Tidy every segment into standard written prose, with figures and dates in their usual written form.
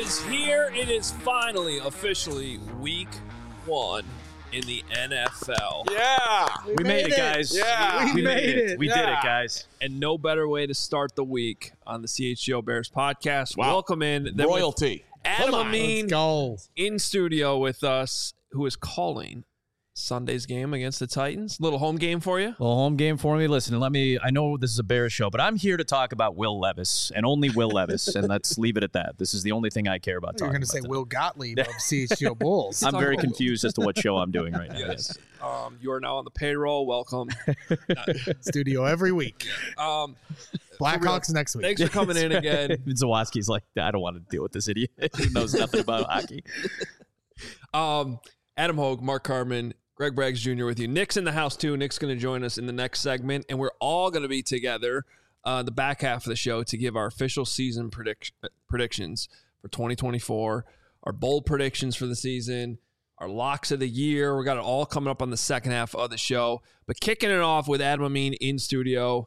is here. It is finally officially week 1 in the NFL. Yeah. We made it, guys. Yeah. We made it. We did it, guys. And no better way to start the week on the CHGO Bears podcast. Wow. Welcome in. Royalty. Adam Come on. Amin Let's go. in studio with us, who is calling Sunday's game against the Titans. Little home game for you. Little home game for me. Listen, I know this is a Bears show, but I'm here to talk about Will Levis and only Will Levis, and let's leave it at that. This is the only thing I care about talking You're going about. to say today. Will Gottlieb of CHGO Bulls. I'm very confused as to what show I'm doing right now. Yes. You are now on the payroll. Welcome. Studio every week. For real. Blackhawks next week. Thanks for coming in again. Zawoski's like, I don't want to deal with this idiot. He knows nothing about hockey. Adam Hogue, Mark Carman, Greg Braggs Jr. with you. Nick's in the house too. Nick's going to join us in the next segment, and we're all going to be together the back half of the show to give our official season predictions for 2024, our bold predictions for the season, our locks of the year. We got it all coming up on the second half of the show. But kicking it off with Adam Amin in studio.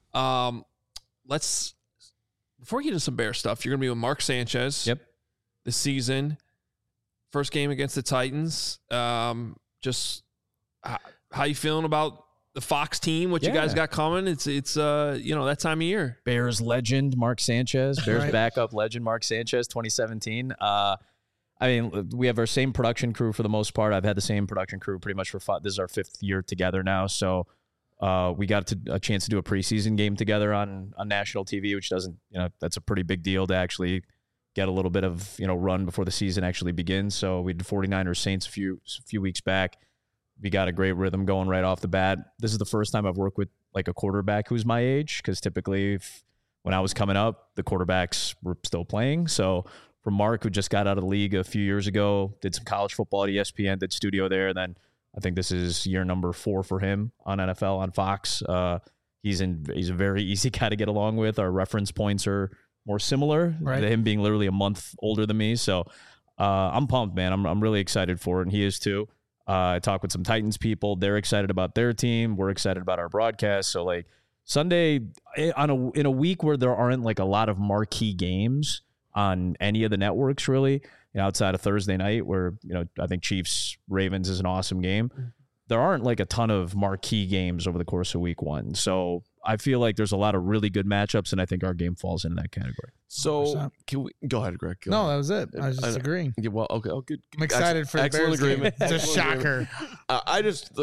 Let's before we get into some Bear stuff, you're going to be with Mark Sanchez. Yep. This season, first game against the Titans. Just how you feeling about the Fox team? What you guys got coming? It's that time of year. Bears legend Mark Sanchez, Bears Right. backup legend Mark Sanchez, 2017. I mean, we have our same production crew for the most part. I've had the same production crew pretty much for this is our 5th year together now. So we got a chance to do a preseason game together on national TV, which doesn't, that's a pretty big deal to actually get a little bit of, run before the season actually begins. So we did 49ers Saints a few weeks back. We got a great rhythm going right off the bat. This is the first time I've worked with like a quarterback who's my age, because typically when I was coming up, the quarterbacks were still playing. So for Mark, who just got out of the league a few years ago, did some college football at ESPN, did studio there. And then I think this is year number 4 for him on NFL on Fox. He's a very easy guy to get along with. Our reference points are more similar, Right. to him being literally a month older than me. So I'm pumped, man. I'm really excited for it, and he is too. I talked with some Titans people. They're excited about their team. We're excited about our broadcast. So like Sunday in a week where there aren't like a lot of marquee games on any of the networks really, outside of Thursday night where, I think Chiefs Ravens is an awesome game. There aren't like a ton of marquee games over the course of week 1. So I feel like there's a lot of really good matchups, and I think our game falls into that category. So 100%. can we go ahead, Greg? Go No, ahead. that was it. I was just agreeing. Yeah, well, okay. Oh, good. I'm excited for the Excellent Bears game. agreement. It's a Excellent agreement. shocker. I just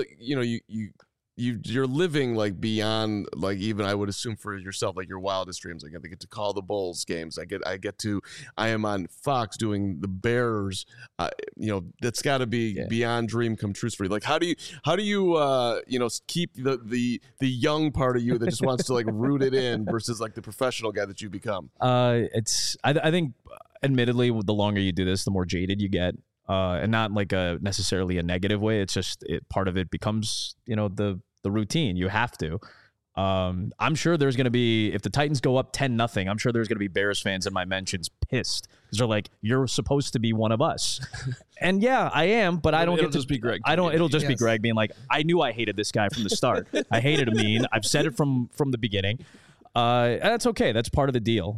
you're living like beyond like even I would assume for yourself like your wildest dreams. Like I get to call the Bulls games. I am on Fox doing the Bears. That's got to be beyond dream come true for you. Like how do you keep the young part of you that just wants to like root it in versus like the professional guy that you become. I think admittedly the longer you do this, the more jaded you get. And not like necessarily a negative way. It's just part of it becomes, the routine. You have to. I'm sure there's going to be, if the Titans go up 10-0, I'm sure there's going to be Bears fans in my mentions pissed because they're like, you're supposed to be one of us. And yeah, I am, but I don't It'll get to just be Greg. It'll just be Yes. Greg being like, I knew I hated this guy from the start. I hated Amin. I've said it from the beginning. And that's okay. That's part of the deal.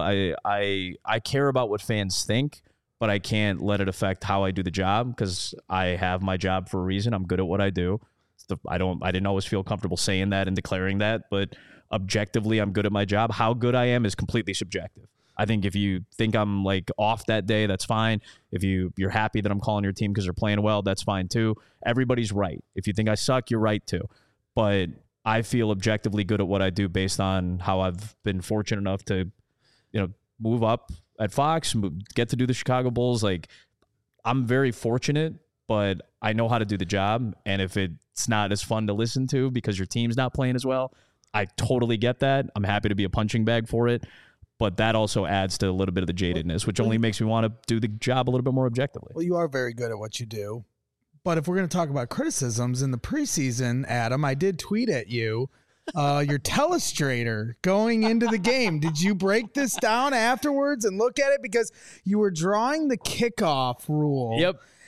I care about what fans think, but I can't let it affect how I do the job because I have my job for a reason. I'm good at what I do. I didn't always feel comfortable saying that and declaring that, but objectively, I'm good at my job. How good I am is completely subjective. I think if you think I'm like off that day, that's fine. If you're happy that I'm calling your team because they're playing well, that's fine too. Everybody's right. If you think I suck, you're right too. But I feel objectively good at what I do based on how I've been fortunate enough to, move up at Fox, get to do the Chicago Bulls. Like I'm very fortunate, but I know how to do the job. And if it's not as fun to listen to because your team's not playing as well, I totally get that. I'm happy to be a punching bag for it. But that also adds to a little bit of the jadedness, which only makes me want to do the job a little bit more objectively. Well, you are very good at what you do. But if we're going to talk about criticisms in the preseason, Adam, I did tweet at you. Your telestrator going into the game. Did you break this down afterwards and look at it? Because you were drawing the kickoff rule. Yep.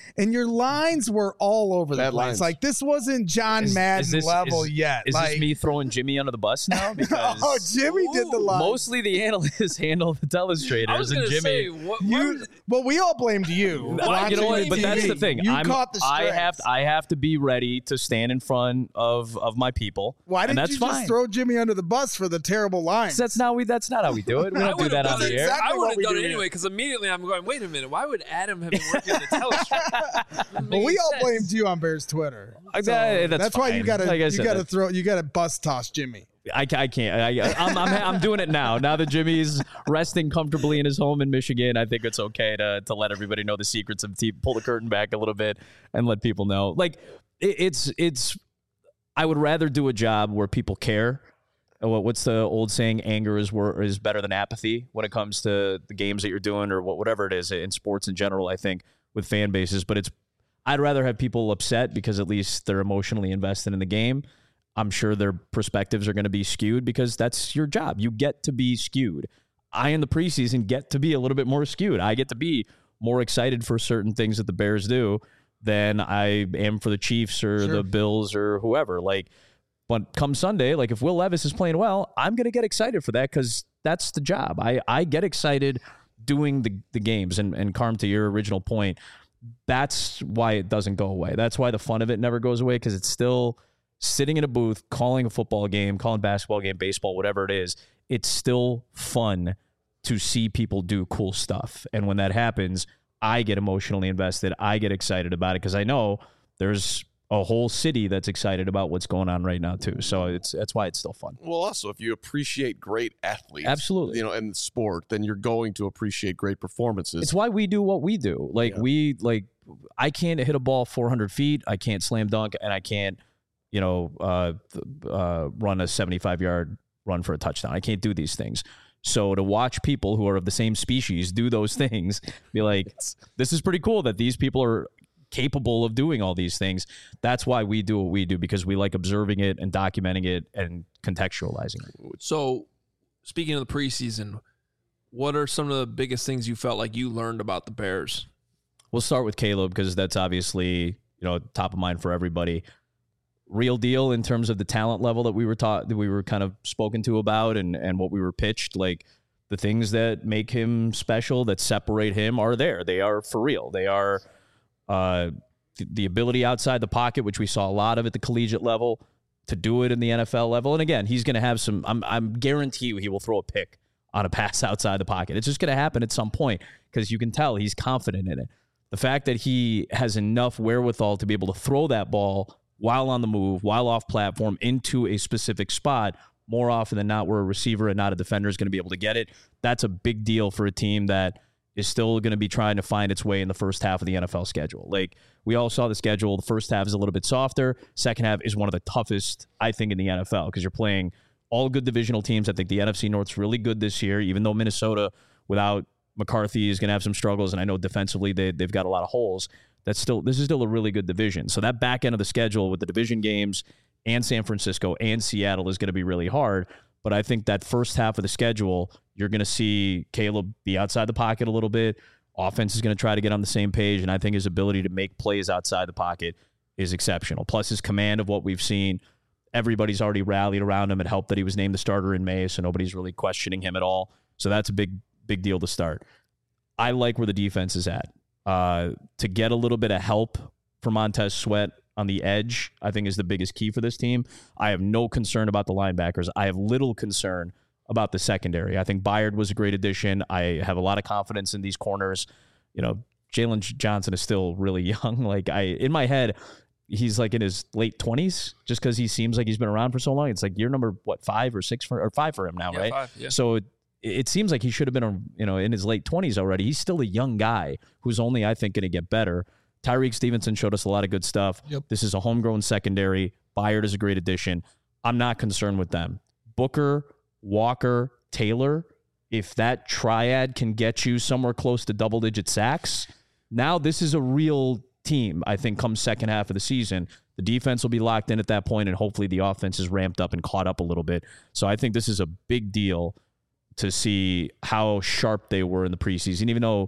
and your lines were all over the Bad place. lines. Like this wasn't John Madden level yet. Is like, this me throwing Jimmy under the bus now? Because oh, Jimmy did the line. mostly the analysts handle the telestrators, I was and gonna Jimmy. say, what Well, we all blamed you. Well, you know what? watching But that's TV. the thing. You caught the strengths. I have to be ready to stand in front of my people. Why and didn't that's you fine. just throw Jimmy under the bus for the terrible lines? That's not how we do it. We don't do that on the air. exactly I would what have we done do it here. anyway because immediately I'm going, wait a minute, why would Adam have been working on the telestrator? Well, we all blamed you on Bears Twitter. So That's why you fine. gotta Like I said, you gotta bus toss Jimmy. I can't. I'm doing it now. Now that Jimmy's resting comfortably in his home in Michigan, I think it's okay to let everybody know the secrets of the team, pull the curtain back a little bit, and let people know. Like it's. I would rather do a job where people care. What's the old saying? Anger is better than apathy when it comes to the games that you're doing or whatever it is in sports in general. I think with fan bases, but I'd rather have people upset because at least they're emotionally invested in the game. I'm sure their perspectives are going to be skewed because that's your job. You get to be skewed. I, in the preseason, get to be a little bit more skewed. I get to be more excited for certain things that the Bears do than I am for the Chiefs or the Bills or whoever. Like, but come Sunday, like if Will Levis is playing well, I'm going to get excited for that because that's the job. I get excited doing the games. And Carm, to your original point, that's why it doesn't go away. That's why the fun of it never goes away because it's still sitting in a booth, calling a football game, calling basketball game, baseball, whatever it is. It's still fun to see people do cool stuff. And when that happens, I get emotionally invested. I get excited about it because I know there's a whole city that's excited about what's going on right now too. So that's why it's still fun. Well, also, if you appreciate great athletes, Absolutely. in the sport, then you're going to appreciate great performances. It's why we do what we do. I can't hit a ball 400 feet. I can't slam dunk, and I can't, run a 75-yard run for a touchdown. I can't do these things. So to watch people who are of the same species do those things, be like, this is pretty cool that these people are capable of doing all these things. That's why we do what we do, because we like observing it and documenting it and contextualizing it. So, speaking of the preseason, what are some of the biggest things you felt like you learned about the Bears? We'll start with Caleb because that's obviously, top of mind for everybody. Real deal in terms of the talent level that we were taught, that we were kind of spoken to about and what we were pitched. Like the things that make him special, that separate him, are there. They are for real. They are the ability outside the pocket, which we saw a lot of at the collegiate level, to do it in the NFL level. And again, he's going to have some, I'm guarantee you he will throw a pick on a pass outside the pocket. It's just going to happen at some point because you can tell he's confident in it. The fact that he has enough wherewithal to be able to throw that ball while on the move, while off platform, into a specific spot, more often than not, where a receiver and not a defender is going to be able to get it. That's a big deal for a team that is still going to be trying to find its way in the first half of the NFL schedule. Like, we all saw the schedule. The first half is a little bit softer. Second half is one of the toughest, I think, in the NFL because you're playing all good divisional teams. I think the NFC North's really good this year, even though Minnesota, without McCarthy, is going to have some struggles, and I know defensively they've got a lot of holes. This is still a really good division. So that back end of the schedule with the division games and San Francisco and Seattle is going to be really hard. But I think that first half of the schedule, you're going to see Caleb be outside the pocket a little bit. Offense is going to try to get on the same page, and I think his ability to make plays outside the pocket is exceptional. Plus his command of what we've seen. Everybody's already rallied around him. It helped that he was named the starter in May, so nobody's really questioning him at all. So that's a big deal to start. I like where the defense is at. To get a little bit of help from Montez Sweat on the edge, I think is the biggest key for this team. I have no concern about the linebackers. I have little concern about the secondary. I think Byard was a great addition. I have a lot of confidence in these corners. Jalen Johnson is still really young. In my head, he's like in his late 20s just because he seems like he's been around for so long. It's like year number, 5 or 6 or 5 for him now, right? 5, yeah. So it seems like he should have been, in his late 20s already. He's still a young guy who's only, I think, going to get better. Tyreek Stevenson showed us a lot of good stuff. Yep. This is a homegrown secondary. Byard is a great addition. I'm not concerned with them. Booker, Walker, Taylor, if that triad can get you somewhere close to double-digit sacks, now this is a real team, I think, come second half of the season. The defense will be locked in at that point, and hopefully the offense is ramped up and caught up a little bit. So I think this is a big deal to see how sharp they were in the preseason, even though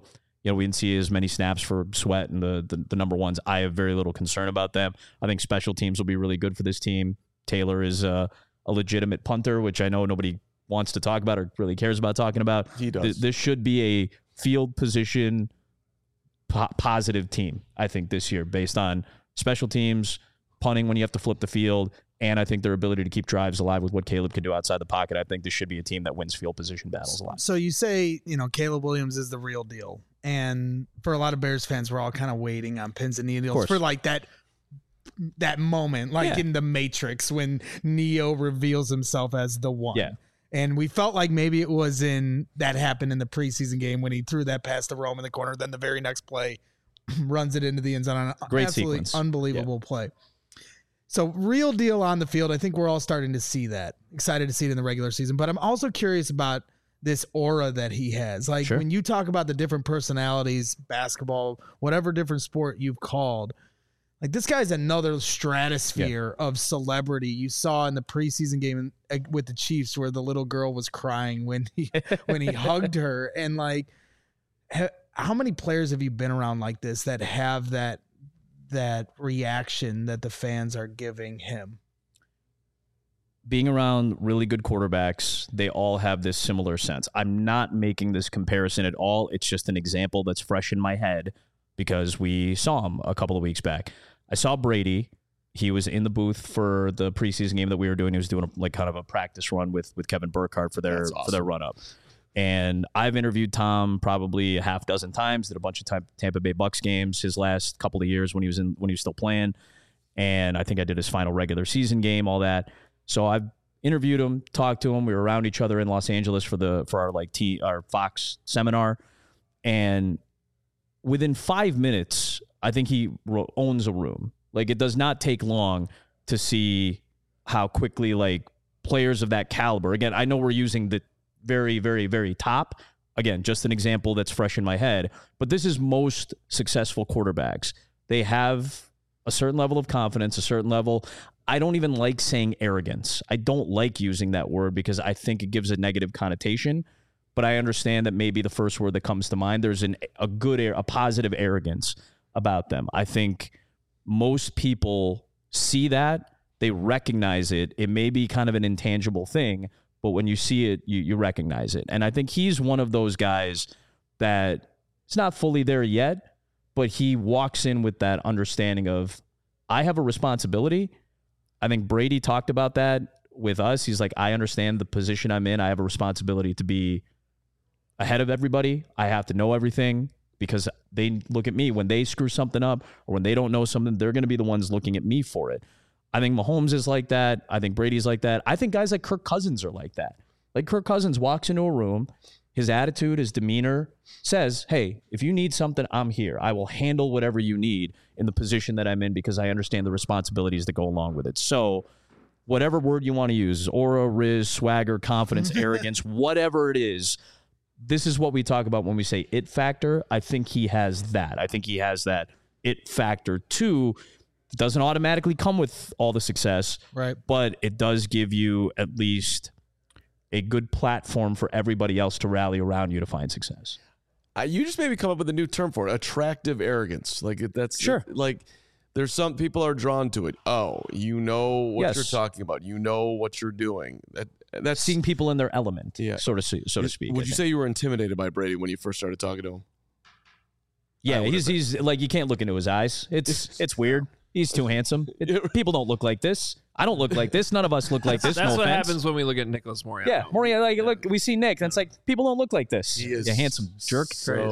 we didn't see as many snaps for Sweat and the number ones. I have very little concern about them. I think special teams will be really good for this team. Taylor is a legitimate punter, which I know nobody wants to talk about or really cares about talking about. He does. This should be a field position positive team, I think, this year, based on special teams, punting when you have to flip the field, and I think their ability to keep drives alive with what Caleb can do outside the pocket. I think this should be a team that wins field position battles a lot. So you say, Caleb Williams is the real deal. And for a lot of Bears fans, we're all kind of waiting on pins and needles for like that moment, like in the Matrix when Neo reveals himself as the one. Yeah. And we felt like maybe it was that happened in the preseason game when he threw that pass to Rome in the corner. Then the very next play runs it into the end zone on an Great absolutely sequence. Unbelievable play. So real deal on the field. I think we're all starting to see that. Excited to see it in the regular season. But I'm also curious about this aura that he has. Like when you talk about the different personalities, basketball, whatever different sport you've called, like this guy's another stratosphere of celebrity. You saw in the preseason game with the Chiefs where the little girl was crying when he hugged her. And like, how many players have you been around like this that have that reaction that the fans are giving him? Being around really good quarterbacks, they all have this similar sense. I'm not making this comparison at all. It's just an example that's fresh in my head because we saw him a couple of weeks back. I saw Brady. He was in the booth for the preseason game that we were doing. He was doing kind of a practice run with Kevin Burkhardt for their run up. And I've interviewed Tom probably a half dozen times. Did a bunch of Tampa Bay Bucks games his last couple of years when he was still playing. And I think I did his final regular season game, all that. So I've interviewed him, talked to him. We were around each other in Los Angeles for our Fox seminar. And within 5 minutes, I think he owns a room. Like, it does not take long to see how quickly, like, players of that caliber, again, I know we're using the very, very, very top. Again, just an example that's fresh in my head. But this is most successful quarterbacks. They have a certain level of confidence, a certain level. I don't even like saying arrogance. I don't like using that word because I think it gives a negative connotation. But I understand that maybe the first word that comes to mind, there's a positive arrogance about them. I think most people see that. They recognize it. It may be kind of an intangible thing, but when you see it, you recognize it. And I think he's one of those guys that it's not fully there yet, but he walks in with that understanding of, I have a responsibility. I think Brady talked about that with us. He's like, I understand the position I'm in. I have a responsibility to be ahead of everybody. I have to know everything because they look at me when they screw something up or when they don't know something, they're going to be the ones looking at me for it. I think Mahomes is like that. I think Brady's like that. I think guys like Kirk Cousins are like that. Like Kirk Cousins walks into a room, his attitude, his demeanor says, hey, if you need something, I'm here. I will handle whatever you need in the position that I'm in because I understand the responsibilities that go along with it. So whatever word you want to use, aura, riz, swagger, confidence, arrogance, whatever it is, this is what we talk about when we say it factor. I think he has that. I think he has that it factor too. It doesn't automatically come with all the success, right? But it does give you at least a good platform for everybody else to rally around you to find success. You just maybe come up with a new term for it: attractive arrogance. Like that's sure. Like there's some people are drawn to it. Oh, you know what Yes. you're talking about. You know what you're doing. That's Seeing people in their element, so to speak. Would you say you were intimidated by Brady when you first started talking to him? Yeah, he's like, you can't look into his eyes. It's weird. He's too handsome. People don't look like this. I don't look like this. None of us look like this. That's no what offense. happens when we look at Nicholas Moriarty. Yeah, Moriarty. Like, look, we see Nick, and it's like people don't look like this. He is you handsome jerk.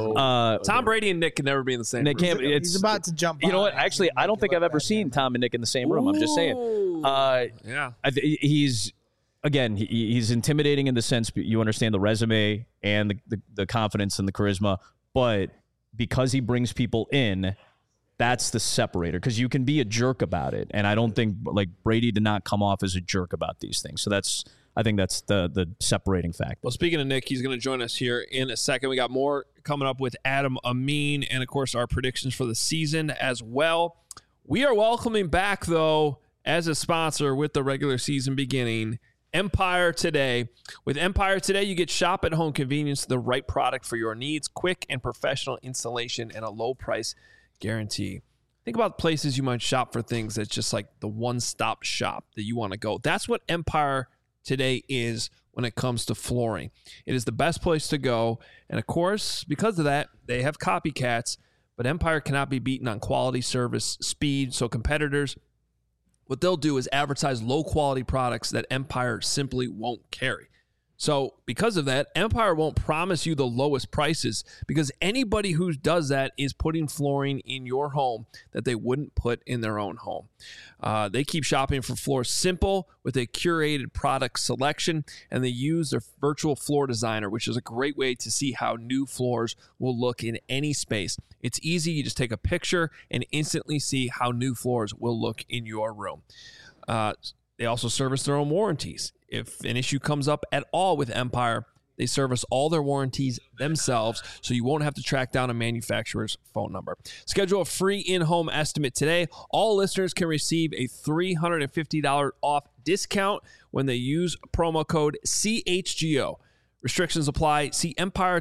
Tom Brady and Nick can never be in the same Nick room. can't. He's about to jump. You know on what? it. Actually, I don't think I've ever seen Tom and Nick in the same room. I'm just saying. Yeah. He's again. He's intimidating in the sense you understand the resume and the confidence and the charisma, but because he brings people in. That's the separator because you can be a jerk about it. And I don't think like Brady did not come off as a jerk about these things. So I think that's the separating factor. Well, speaking of Nick, he's going to join us here in a second. We got more coming up with Adam Amin and, of course, our predictions for the season as well. We are welcoming back, though, as a sponsor with the regular season beginning, Empire Today. With Empire Today, you get shop at home convenience, the right product for your needs, quick and professional installation, and a low price guarantee. Think about places you might shop for things that's just like the one-stop shop that you want to go. That's what Empire Today is when it comes to flooring. It is the best place to go. And of course, because of that, they have copycats, but Empire cannot be beaten on quality, service, speed. So competitors, what they'll do is advertise low-quality products that Empire simply won't carry. So because of that, Empire won't promise you the lowest prices, because anybody who does that is putting flooring in your home that they wouldn't put in their own home. They keep shopping for floors simple with a curated product selection, and they use their virtual floor designer, which is a great way to see how new floors will look in any space. It's easy. You just take a picture and instantly see how new floors will look in your room. They also service their own warranties. If an issue comes up at all with Empire, they service all their warranties themselves, so you won't have to track down a manufacturer's phone number. Schedule a free in-home estimate today. All listeners can receive a $350 off discount when they use promo code CHGO. Restrictions apply. See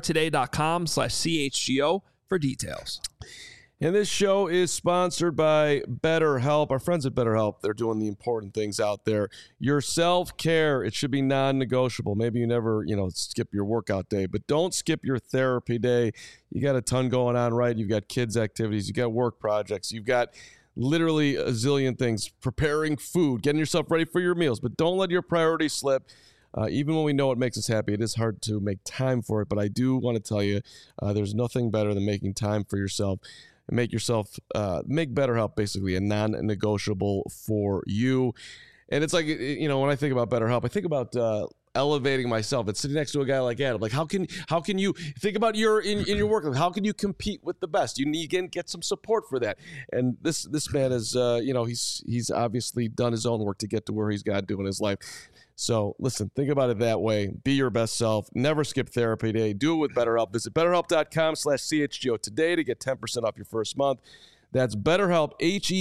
empiretoday.com/CHGO for details. And this show is sponsored by BetterHelp. Our friends at BetterHelp, they're doing the important things out there. Your self-care, it should be non-negotiable. Maybe you never, skip your workout day, but don't skip your therapy day. You got a ton going on, right? You've got kids' activities. You got work projects. You've got literally a zillion things. Preparing food, getting yourself ready for your meals. But don't let your priorities slip. Even when we know it makes us happy, it is hard to make time for it. But I do want to tell you, there's nothing better than making time for yourself. And make BetterHelp basically a non-negotiable for you. And it's like, when I think about BetterHelp, I think about elevating myself and sitting next to a guy like Adam. Like, how can you think about in your work? Like, how can you compete with the best? You need to get some support for that. And this man is, he's obviously done his own work to get to where he's got to in his life. So listen, think about it that way. Be your best self. Never skip therapy day. Do it with BetterHelp. Visit BetterHelp.com/CHGO today to get 10% off your first month. That's BetterHelp,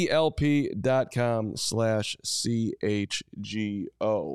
HELP.com/CHGO.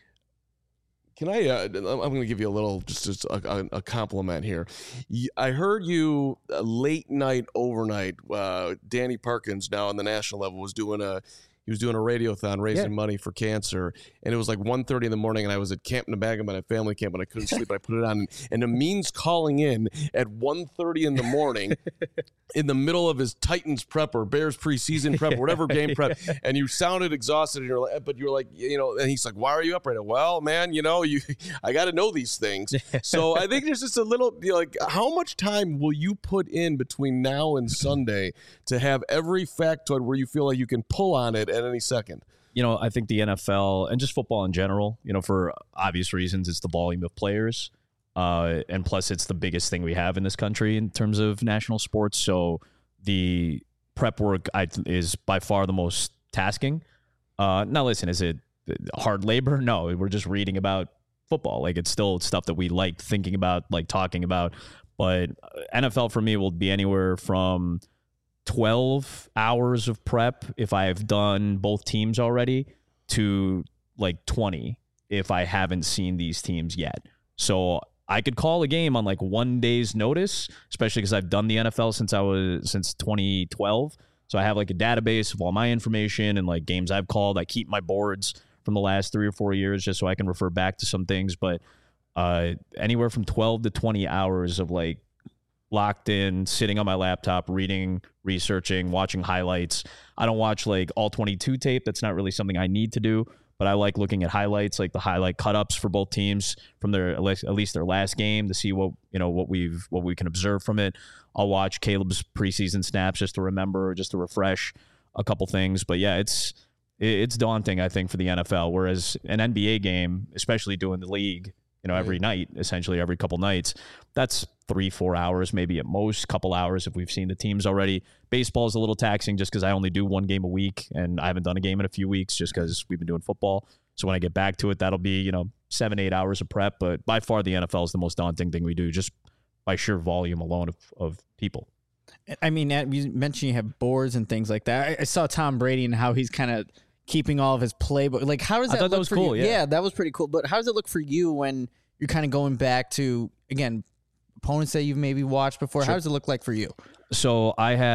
Can I'm going to give you a little, just a compliment here. I heard you late night, overnight. Danny Parkins, now on the national level, was doing a radiothon raising money for cancer, and it was like 1:30 in the morning, and I was at Camp Nebagam at family camp, and I couldn't sleep. I put it on, and Amin's calling in at 1:30 in the morning in the middle of his Titans prep or Bears preseason prep, or whatever game prep, and you sounded exhausted, and you're like, and he's like, why are you up right now? Well, man, I got to know these things. So I think there's just a little, how much time will you put in between now and Sunday to have every factoid where you feel like you can pull on it at any second? I think the NFL and just football in general, for obvious reasons, it's the volume of players. And plus, it's the biggest thing we have in this country in terms of national sports. So the prep work is by far the most tasking. Now, listen, is it hard labor? No, we're just reading about football. Like, it's still stuff that we like thinking about, like talking about. But NFL for me will be anywhere from 12 hours of prep if I've done both teams already to like 20 if I haven't seen these teams yet. So I could call a game on like 1 day's notice, especially because I've done the NFL since 2012. So I have like a database of all my information and like games I've called. I keep my boards from the last 3 or 4 years just so I can refer back to some things. But anywhere from 12 to 20 hours of like locked in, sitting on my laptop, reading, researching, watching highlights. I don't watch like all 22 tape. That's not really something I need to do, but I like looking at highlights, like the highlight cut-ups for both teams from at least their last game to see what we can observe from it. I'll watch Caleb's preseason snaps just to remember, just to refresh a couple things. But yeah, it's daunting, I think, for the NFL, whereas an NBA game, especially doing the league, every night, essentially every couple nights, that's 3-4 hours, maybe at most, couple hours if we've seen the teams already. Baseball is a little taxing just because I only do one game a week, and I haven't done a game in a few weeks just because we've been doing football. So when I get back to it, that'll be, 7-8 hours of prep. But by far, the NFL is the most daunting thing we do, just by sheer volume alone of people. I mean, you mentioned you have boards and things like that. I saw Tom Brady and how he's kind of keeping all of his playbook. Like, how does that look for cool, you? yeah. That was pretty cool. But how does it look for you when you're kind of going back to, again, opponents that you've maybe watched before? Sure. How does it look like for you? So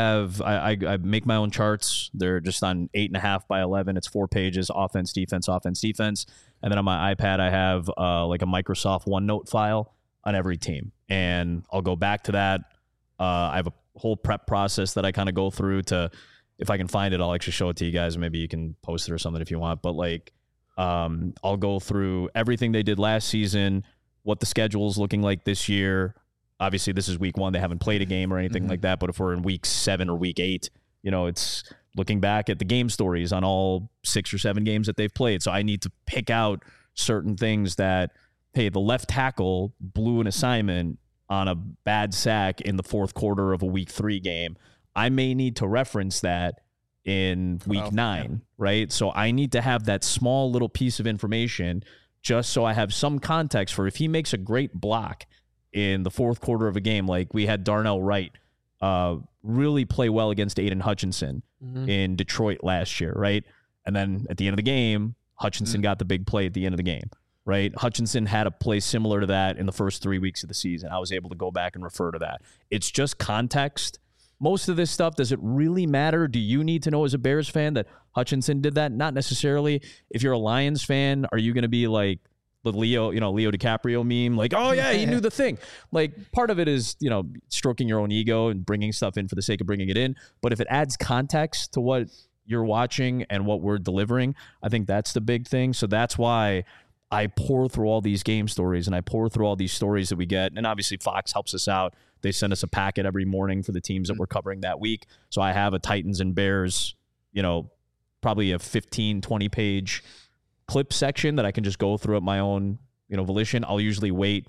I make my own charts. They're just on 8.5 by 11. It's 4 pages, offense, defense. And then on my iPad, I have like a Microsoft OneNote file on every team. And I'll go back to that. I have a whole prep process that I kind of go through to, if I can find it, I'll actually show it to you guys. Maybe you can post it or something if you want. But like, I'll go through everything they did last season, what the schedule is looking like this year. Obviously, this is week 1. They haven't played a game or anything like that. But if we're in week 7 or week 8, you know, it's looking back at the game stories on all 6 or 7 games that they've played. So I need to pick out certain things that, hey, the left tackle blew an assignment on a bad sack in the fourth quarter of a week 3 game. I may need to reference that in week 9, right? So I need to have that small little piece of information just so I have some context for if he makes a great block in the fourth quarter of a game, like we had Darnell Wright really play well against Aiden Hutchinson in Detroit last year, right? And then at the end of the game, Hutchinson got the big play at the end of the game, right? Hutchinson had a play similar to that in the first 3 weeks of the season. I was able to go back and refer to that. It's just context. Most of this stuff, does it really matter? Do you need to know as a Bears fan that Hutchinson did that? Not necessarily. If you're a Lions fan, are you going to be like the Leo DiCaprio meme? Like, oh yeah, he knew the thing. Like, part of it is, you know, stroking your own ego and bringing stuff in for the sake of bringing it in. But if it adds context to what you're watching and what we're delivering, I think that's the big thing. So that's why I pour through all these game stories and I pour through all these stories that we get. And obviously Fox helps us out. They send us a packet every morning for the teams that we're covering that week. So I have a Titans and Bears, you know, probably a 15, 20 page clip section that I can just go through at my own, you know, volition. I'll usually wait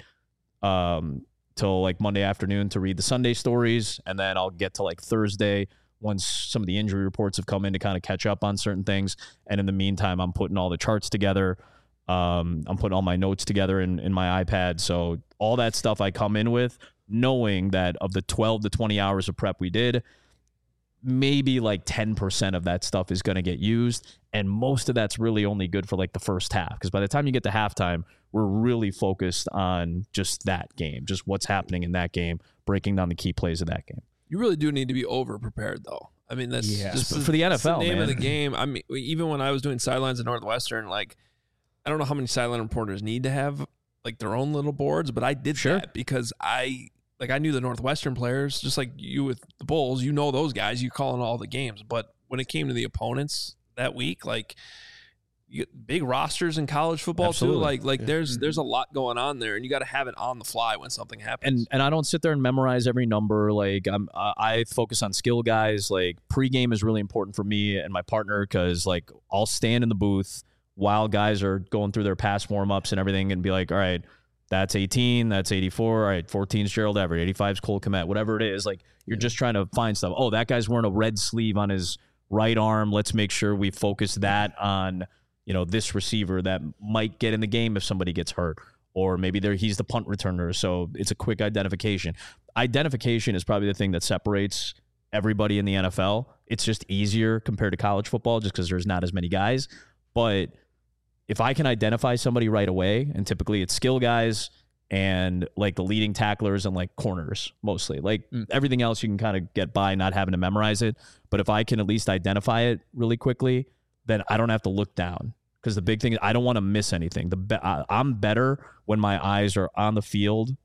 till like Monday afternoon to read the Sunday stories. And then I'll get to like Thursday once some of the injury reports have come in to kind of catch up on certain things. And in the meantime, I'm putting all the charts together. I'm putting all my notes together in my iPad. So all that stuff I come in with, knowing that of the 12 to 20 hours of prep we did, maybe like 10% of that stuff is going to get used. And most of that's really only good for like the first half. Because by the time you get to halftime, we're really focused on just that game, just what's happening in that game, breaking down the key plays of that game. You really do need to be over-prepared, though. I mean, that's just for the NFL, the name man. of the game. I mean, even when I was doing sidelines at Northwestern, like, I don't know how many sideline reporters need to have like their own little boards, but I did that because I knew the Northwestern players, just like you with the Bulls. You know those guys. You calling all the games. But when it came to the opponents that week, like, you get big rosters in college football too. Like there's a lot going on there, and you got to have it on the fly when something happens. And I don't sit there and memorize every number. Like I focus on skill guys. Like pregame is really important for me and my partner because like I'll stand in the booth while guys are going through their past warm-ups and everything and be like, all right, that's 18, that's 84, all right, 14 is Gerald Everett, 85 is Cole Kmet, whatever it is. Like, you're just trying to find stuff. Oh, that guy's wearing a red sleeve on his right arm. Let's make sure we focus that on, you know, this receiver that might get in the game if somebody gets hurt. Or maybe he's the punt returner, so it's a quick identification. Identification is probably the thing that separates everybody in the NFL. It's just easier compared to college football just because there's not as many guys. But if I can identify somebody right away, and typically it's skill guys and like the leading tacklers and like corners mostly. Like everything else you can kind of get by not having to memorize it. But if I can at least identify it really quickly, then I don't have to look down. Because the big thing is I don't want to miss anything. I'm better when my eyes are on the field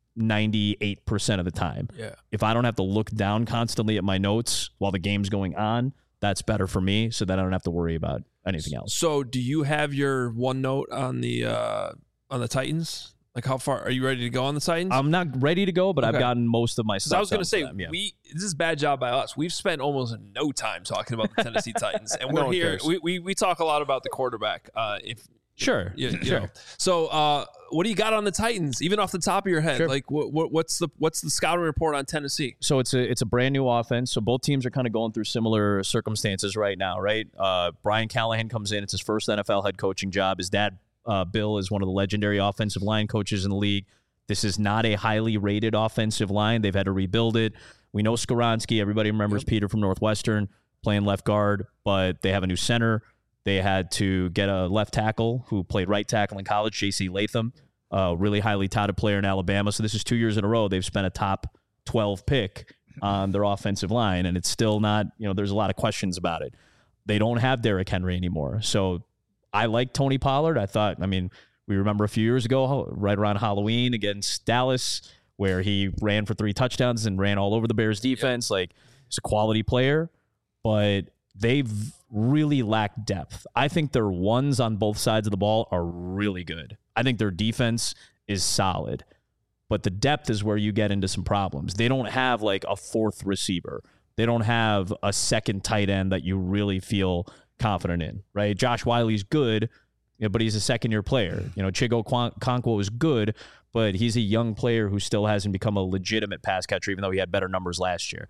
98% of the time. Yeah. If I don't have to look down constantly at my notes while the game's going on, that's better for me so that I don't have to worry about anything else. So do you have your OneNote on the Titans? Like, how far are you ready to go on the Titans? I'm not ready to go, but Okay. I've gotten most of my stuff. I was going to say, them, yeah. this is a bad job by us. We've spent almost no time talking about the Tennessee Titans, and we're here. We talk a lot about the quarterback. Sure. You know. So, what do you got on the Titans? Even off the top of your head, like what's the scouting report on Tennessee? So it's a brand new offense. So both teams are kind of going through similar circumstances right now, right? Brian Callahan comes in. It's his first NFL head coaching job. His dad, Bill, is one of the legendary offensive line coaches in the league. This is not a highly rated offensive line. They've had to rebuild it. We know Skoronski. Everybody remembers Peter from Northwestern playing left guard, but they have a new center. They had to get a left tackle who played right tackle in college, J.C. Latham, a really highly touted player in Alabama. So this is 2 years in a row they've spent a top 12 pick on their offensive line, and it's still not, there's a lot of questions about it. They don't have Derrick Henry anymore. So I like Tony Pollard. We remember a few years ago, right around Halloween against Dallas, where he ran for 3 touchdowns and ran all over the Bears defense. Like, he's a quality player, but they've really lacked depth. I think their ones on both sides of the ball are really good. I think their defense is solid, but the depth is where you get into some problems. They don't have like a 4th receiver. They don't have a second tight end that you really feel confident in, right? Josh Wiley's good, but he's a second-year player. Chigo Okonkwo is good, but he's a young player who still hasn't become a legitimate pass catcher, even though he had better numbers last year.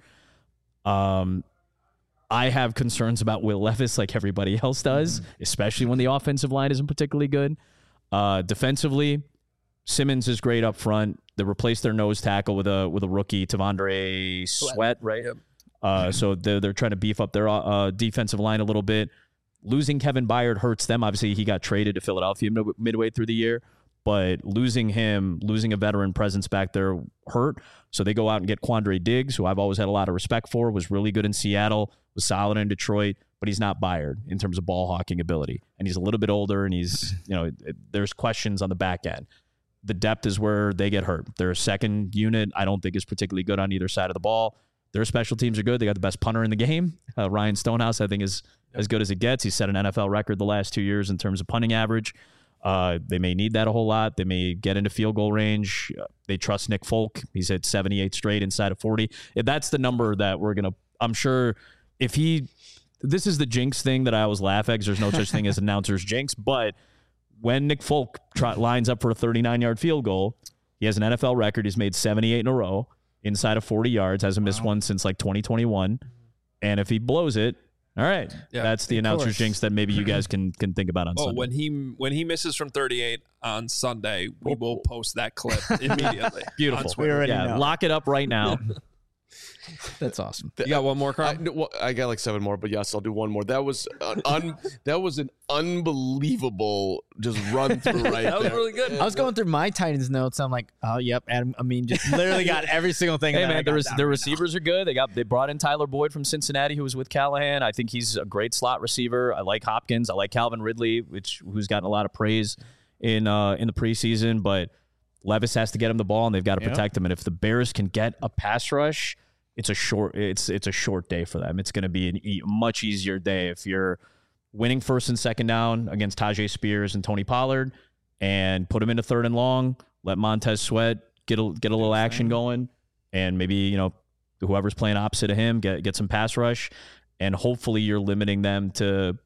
I have concerns about Will Levis like everybody else does, especially when the offensive line isn't particularly good. Defensively, Simmons is great up front. They replaced their nose tackle with a rookie, Tavondre Sweat, right? Yep. So they're trying to beef up their defensive line a little bit. Losing Kevin Byard hurts them. Obviously, he got traded to Philadelphia midway through the year, but losing a veteran presence back there hurt. So they go out and get Quandre Diggs, who I've always had a lot of respect for, was really good in Seattle, was solid in Detroit, but he's not Byard in terms of ball hawking ability. And he's a little bit older, and he's, there's questions on the back end. The depth is where they get hurt. Their second unit, I don't think, is particularly good on either side of the ball. Their special teams are good. They got the best punter in the game. Ryan Stonehouse, I think, is as good as it gets. He's set an NFL record the last 2 years in terms of punting average. They may need that a whole lot. They may get into field goal range. They trust Nick Folk. He's hit 78 straight inside of 40. If that's the number that we're going to, I'm sure this is the jinx thing that I always laugh at because there's no such thing as announcer's jinx. But when Nick Folk lines up for a 39-yard field goal, he has an NFL record. He's made 78 in a row inside of 40 yards. Hasn't missed one since like 2021. And if he blows it, all right, that's the announcer's jinx that maybe you guys can think about on Sunday. When he misses from 38 on Sunday, we will post that clip immediately. Beautiful. Lock it up right now. That's awesome. You got one more, Carl? I got like 7 more, but yes, I'll do one more. That was an unbelievable just run through right That was really good. I was going through my Titans notes. I'm like, oh, yep, Adam. I mean, just literally got every single thing. Hey, man, the receivers are good. They brought in Tyler Boyd from Cincinnati, who was with Callahan. I think he's a great slot receiver. I like Hopkins. I like Calvin Ridley, who's gotten a lot of praise in the preseason. But Levis has to get him the ball, and they've got to protect him. And if the Bears can get a pass rush, it's a short day for them. It's going to be a much easier day if you're winning first and second down against Tajay Spears and Tony Pollard, and put him into 3rd and long. Let Montez Sweat get a little action going, and maybe whoever's playing opposite of him get some pass rush, and hopefully you're limiting them to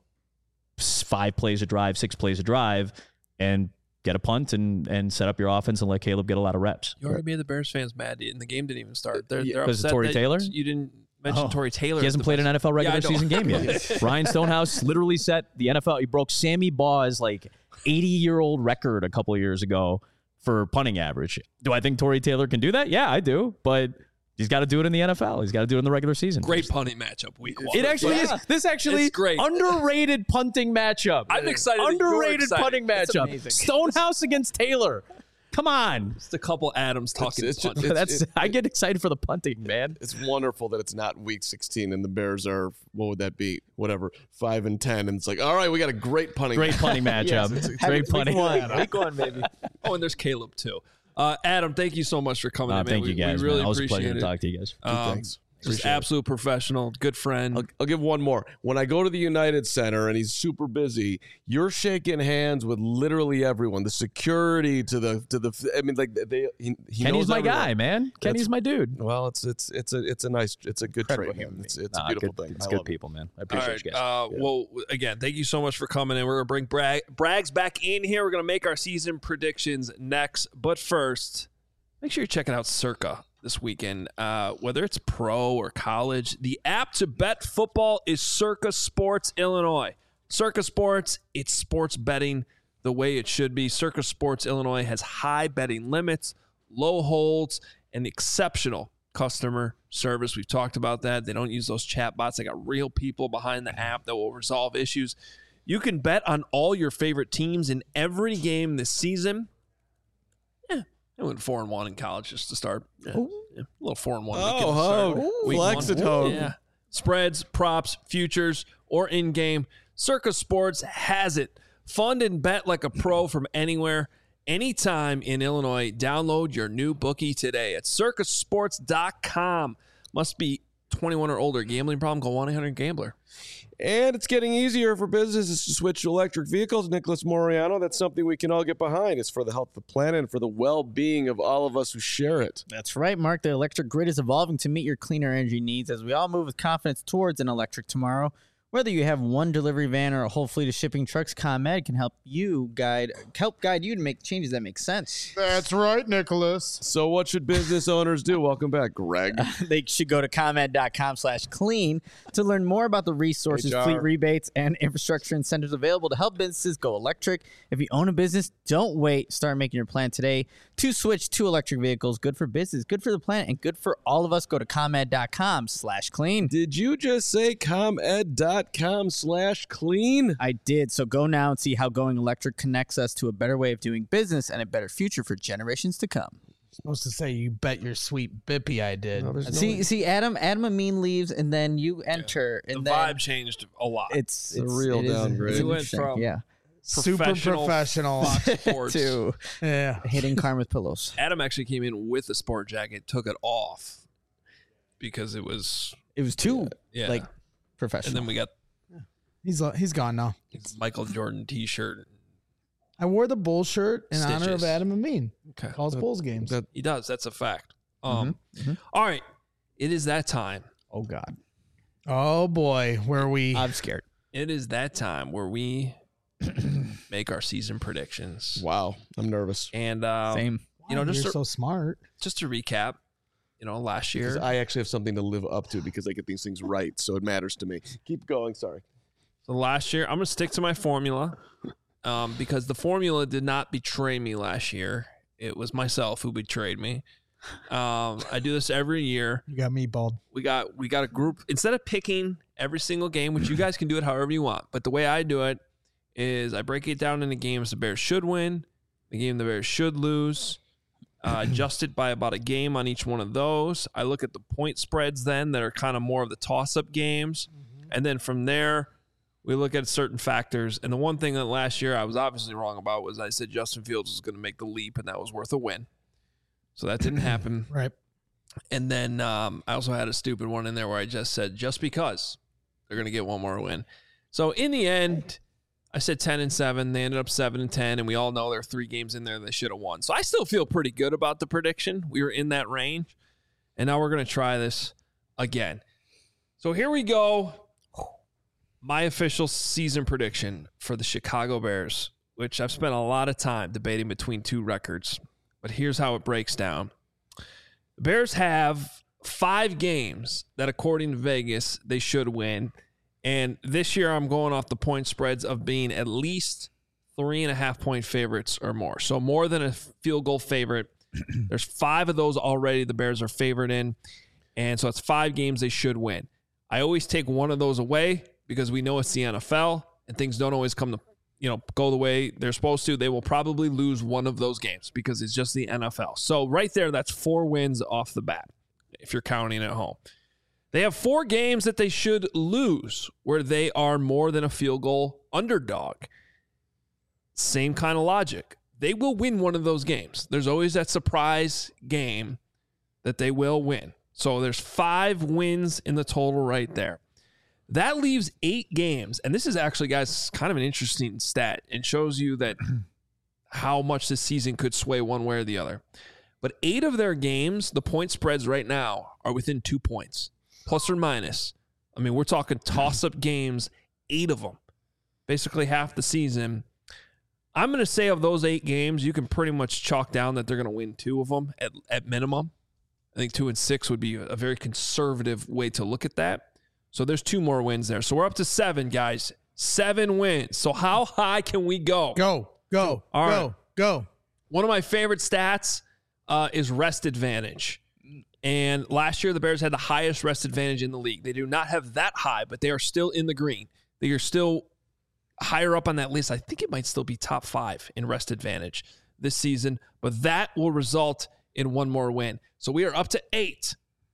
5 plays a drive, 6 plays a drive, and get a punt and set up your offense and let Caleb get a lot of reps. You already made the Bears fans mad, and the game didn't even start. They're upset Tory Taylor? You didn't mention Tory Taylor. He hasn't played an NFL regular season game yet. Ryan Stonehouse literally set the NFL. He broke Sammy Baugh's 80-year-old record a couple of years ago for punting average. Do I think Tory Taylor can do that? Yeah, I do. But he's got to do it in the NFL. He's got to do it in the regular season. Great punting matchup week 1. It actually is. This actually is great. Underrated punting matchup. I'm excited. Underrated punting matchup. Stonehouse against Taylor. Come on. Just a couple Adams talking. I get excited for the punting, man. It's wonderful that it's not week 16 and the Bears are, what would that be? Whatever, 5-10. And it's like, all right, we got a great punting matchup. Great punting. Week one, baby. Oh, and there's Caleb, too. Adam, thank you so much for coming in, man. Thank you, guys. We really always appreciate a pleasure it. to talk to you guys. Thanks. Just absolute professional, good friend. I'll give one more. When I go to the United Center and he's super busy, you're shaking hands with literally everyone. The security to the. I mean, he Kenny's knows my everyone. guy, man. Kenny's my dude. Well, it's a good trait. It's a beautiful thing. It's good people, man. I appreciate you guys. Well, again, thank you so much for coming in. We're gonna bring Brags back in here. We're gonna make our season predictions next, but first, make sure you're checking out Circa this weekend, whether it's pro or college. The app to bet football is Circa Sports Illinois. Circa Sports, it's sports betting the way it should be. Circa Sports Illinois has high betting limits, low holds, and exceptional customer service. We've talked about that. They don't use those chat bots. They got real people behind the app that will resolve issues. You can bet on all your favorite teams in every game this season. I went 4-1 in college just to start. A little 4-1. Flex at home. Yeah. Spreads, props, futures, or in-game. Circa Sports has it. Fund and bet like a pro from anywhere, anytime in Illinois. Download your new bookie today at circasports.com. Must be 21 or older. Gambling problem? Call 1-800-GAMBLER. And it's getting easier for businesses to switch to electric vehicles. Nicholas Moriano, that's something we can all get behind. It's for the health of the planet and for the well-being of all of us who share it. That's right, Mark. The electric grid is evolving to meet your cleaner energy needs as we all move with confidence towards an electric tomorrow. Whether you have one delivery van or a whole fleet of shipping trucks, ComEd can help guide you to make changes that make sense. That's right, Nicholas. So what should business owners do? Welcome back, Greg. They should go to ComEd.com/clean to learn more about the resources, HR. fleet rebates, and infrastructure incentives available to help businesses go electric. If you own a business, don't wait. Start making your plan today to switch to electric vehicles. Good for business, good for the planet, and good for all of us. Go to ComEd.com/clean. Did you just say ComEd.com/clean? I did. So go now and see how going electric connects us to a better way of doing business and a better future for generations to come. Supposed to say, you bet your sweet bippy I did. No, there's See, Adam Amin leaves, and then you enter, The and then vibe changed a lot. it's a real downgrade. it's We went interesting. from- yeah Super professional. Sports. to Yeah. hitting Karn with pillows. Adam actually came in with a sport jacket, took it off because it was It was too and professional. then we got He's gone now. his Michael Jordan T-shirt. I wore the Bull shirt in honor of Stitches. Adam Amin. Okay, Calls Bulls games. he does. That's a fact. Mm-hmm. All right, it is that time. oh God, Oh boy, where we I'm scared. It is that time where we make our season predictions. Wow, I'm nervous. And Same. you know, You're just so smart. to recap, you know, last Because year. I actually have something to live up to because I get these things right, so it matters to me. Keep going, sorry. So last year, I'm going to stick to my formula because the formula did not betray me last year. It was myself who betrayed me. I do this every year. You got me bald. We got a group. Instead of picking every single game, which you guys can do it however you want, but the way I do it is I break it down into games the Bears should win, the game the Bears should lose, adjust it by about a game on each one of those. I look at the point spreads then that are kind of more of the toss-up games, and then from there, we look at certain factors. And the one thing that last year I was obviously wrong about was I said Justin Fields was going to make the leap, and that was worth a win. So that didn't happen. Right. And then I also had a stupid one in there where I just said, just because they're going to get one more win. So in the end, I said 10-7. They ended up 7-10, and we all know there are 3 games in there they should have won. So I still feel pretty good about the prediction. We were in that range. And now we're going to try this again. So here we go. My official season prediction for the Chicago Bears, which I've spent a lot of time debating between 2 records. But here's how it breaks down. The Bears have 5 games that, according to Vegas, they should win. And this year, I'm going off the point spreads of being at least 3.5-point favorites or more. So more than a field goal favorite. There's 5 of those already the Bears are favored in. And so it's 5 games they should win. I always take one of those away because we know it's the NFL and things don't always come to, go the way they're supposed to. They will probably lose one of those games because it's just the NFL. So right there, that's 4 wins off the bat if you're counting at home. They have 4 games that they should lose where they are more than a field goal underdog. Same kind of logic. They will win one of those games. There's always that surprise game that they will win. So there's 5 wins in the total right there. That leaves 8 games. And this is actually, guys, kind of an interesting stat and shows you that how much this season could sway one way or the other. But 8 of their games, the point spreads right now are within 2 points, plus or minus. I mean, we're talking toss-up games, 8 of them, basically half the season. I'm going to say of those 8 games, you can pretty much chalk down that they're going to win 2 of them at minimum. I think 2 and 6 would be a very conservative way to look at that. So there's 2 more wins there. So we're up to 7, guys. 7 wins. So how high can we go? Go. All right. Go. One of my favorite stats is rest advantage. And last year, the Bears had the highest rest advantage in the league. They do not have that high, but they are still in the green. They are still higher up on that list. I think it might still be top 5 in rest advantage this season, but that will result in one more win. So we are up to 8.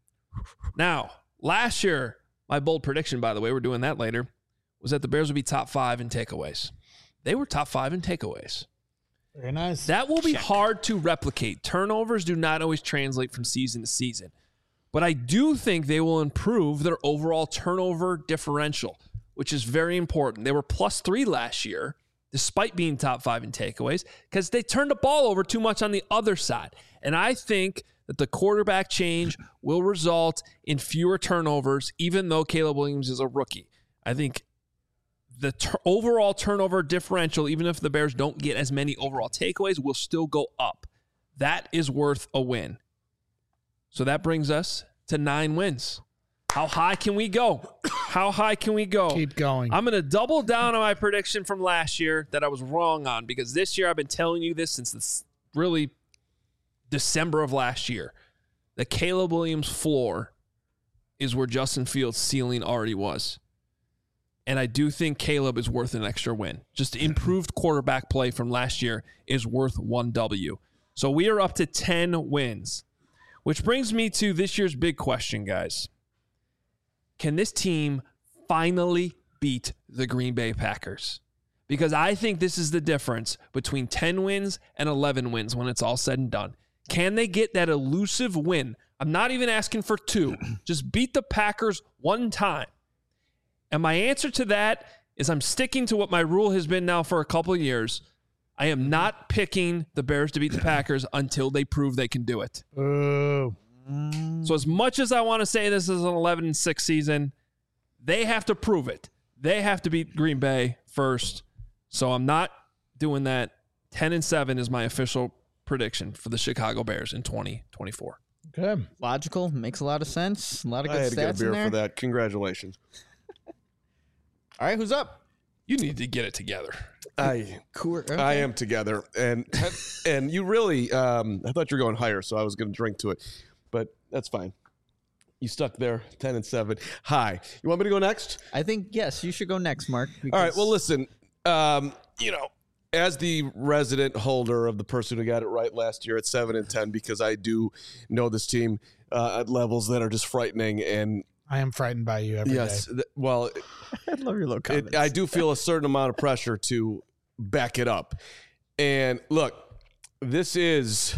Now, last year, my bold prediction, by the way, we're doing that later, was that the Bears would be top 5 in takeaways. They were top 5 in takeaways. Very nice. That will be hard to replicate. Turnovers do not always translate from season to season. But I do think they will improve their overall turnover differential, which is very important. They were +3 last year, despite being top 5 in takeaways, because they turned the ball over too much on the other side. And I think that the quarterback change will result in fewer turnovers, even though Caleb Williams is a rookie. I think the overall turnover differential, even if the Bears don't get as many overall takeaways, will still go up. That is worth a win. So that brings us to 9 wins. How high can we go? How high can we go? Keep going. I'm going to double down on my prediction from last year that I was wrong on, because this year I've been telling you this since really December of last year. The Caleb Williams floor is where Justin Fields' ceiling already was. And I do think Caleb is worth an extra win. Just improved quarterback play from last year is worth 1 W. So we are up to 10 wins, which brings me to this year's big question, guys. Can this team finally beat the Green Bay Packers? Because I think this is the difference between 10 wins and 11 wins when it's all said and done. Can they get that elusive win? I'm not even asking for 2. Just beat the Packers one time. And my answer to that is I'm sticking to what my rule has been now for a couple of years. I am not picking the Bears to beat the Packers until they prove they can do it. Oh. So as much as I want to say this is an 11-6 season, they have to prove it. They have to beat Green Bay first. So I'm not doing that. 10-7 is my official prediction for the Chicago Bears in 2024. Okay. Logical. Makes a lot of sense. A lot of I good had to get a stats beer in there. for that. Congratulations. All right, who's up? You need to get it together. I Okay. am together, and you really. I thought you were going higher, so I was going to drink to it, but that's fine. You stuck there, 10-7. Hi, you want me to go next? I think, yes, you should go next, Mark. All right. Well, listen. As the resident holder of the person who got it right last year at 7-10, because I do know this team at levels that are just frightening, and I am frightened by you every day. yes, well, I love your little comments. I do feel a certain amount of pressure to back it up. And look, this is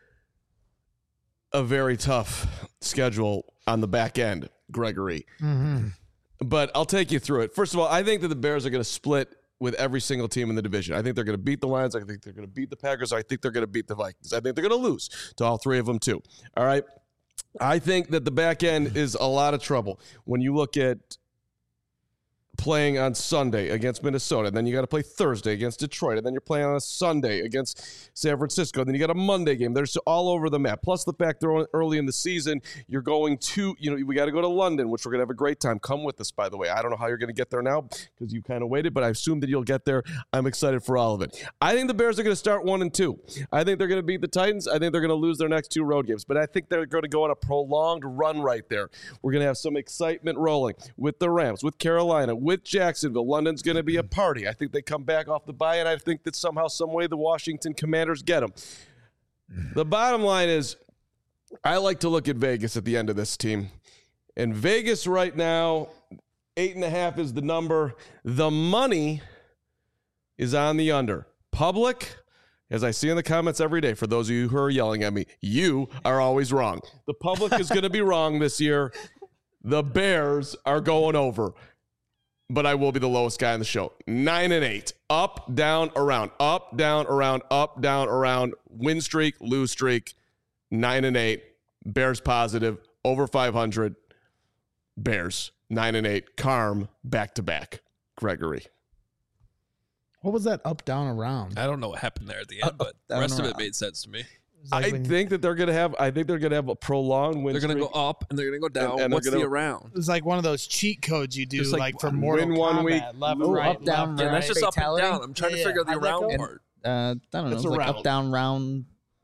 a very tough schedule on the back end, Gregory. Mm-hmm. But I'll take you through it. First of all, I think that the Bears are going to split with every single team in the division. I think they're going to beat the Lions. I think they're going to beat the Packers. I think they're going to beat the Vikings. I think they're going to lose to all 3 of them too. All right. I think that the back end is a lot of trouble when you look at playing on Sunday against Minnesota, and then you got to play Thursday against Detroit, and then you're playing on a Sunday against San Francisco, and then you got a Monday game. They're just all over the map. Plus the fact they're early in the season, you're going to, we got to go to London, which we're going to have a great time. Come with us, by the way. I don't know how you're going to get there now because you kind of waited, but I assume that you'll get there. I'm excited for all of it. I think the Bears are going to start 1-2. I think they're going to beat the Titans. I think they're going to lose their next 2 road games, but I think they're going to go on a prolonged run right there. We're going to have some excitement rolling with the Rams, with Carolina, with Jacksonville. London's going to be a party. I think they come back off the bye, and I think that somehow, some way, the Washington Commanders get them. The bottom line is, I like to look at Vegas at the end of this team. And Vegas right now, 8.5 is the number. The money is on the under. Public, as I see in the comments every day, for those of you who are yelling at me, you are always wrong. The public is going to be wrong this year. The Bears are going over. But I will be the lowest guy on the show. 9-8. Up, down, around. Up, down, around. Up, down, around. Win streak, lose streak. 9-8. Bears positive. Over 500. Bears. 9-8. Carm, back-to-back. Gregory. What was that up, down, around? I don't know what happened there at the end, but the rest of it made sense to me. Like I think that they're going to have a prolonged win They're going to streak. go up and they're going to go down. And What's the around? It's like one of those cheat codes you do, Just like for Mortal win one Kombat. week, Left, move right, up, down, left, Yeah, that's right. just up and Fatality? down. I'm trying to Yeah, figure out the how'd that around go? part. I don't know. It's It's like around. up, down, round.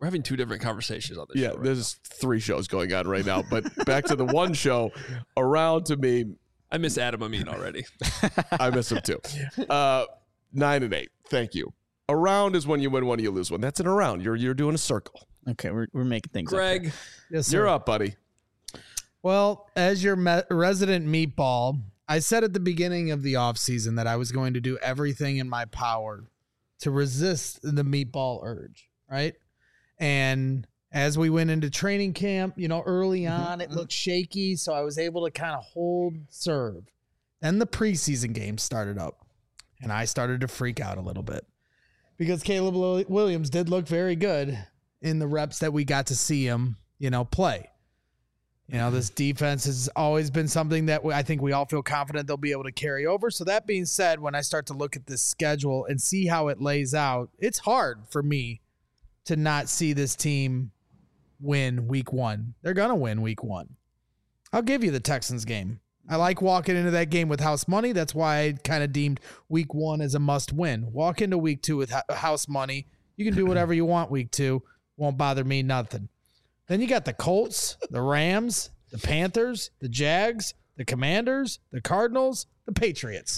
We're having two different conversations on this show. Right there's 3 shows going on right now. But back to the one show, around to me. I miss Adam Amin already. I miss him too. 9 and 8. Thank you. Around is when you win one, you lose one. That's an around. You're doing a circle. Okay, we're making things up. Greg, Yes, sir. You're up, buddy. Well, as your resident meatball, I said at the beginning of the offseason that I was going to do everything in my power to resist the meatball urge, right? And as we went into training camp, early on, it looked shaky, so I was able to kind of hold serve. Then the preseason game started up, and I started to freak out a little bit because Caleb Williams did look very good in the reps that we got to see him, play. This defense has always been something that I think we all feel confident they'll be able to carry over. So that being said, when I start to look at this schedule and see how it lays out, it's hard for me to not see this team win week 1. They're going to win week 1. I'll give you the Texans game. I like walking into that game with house money. That's why I kind of deemed week 1 as a must win. Walk into week 2 with house money. You can do whatever you want week 2. Won't bother me nothing. Then you got the Colts, the Rams, the Panthers, the Jags, the Commanders, the Cardinals, the Patriots.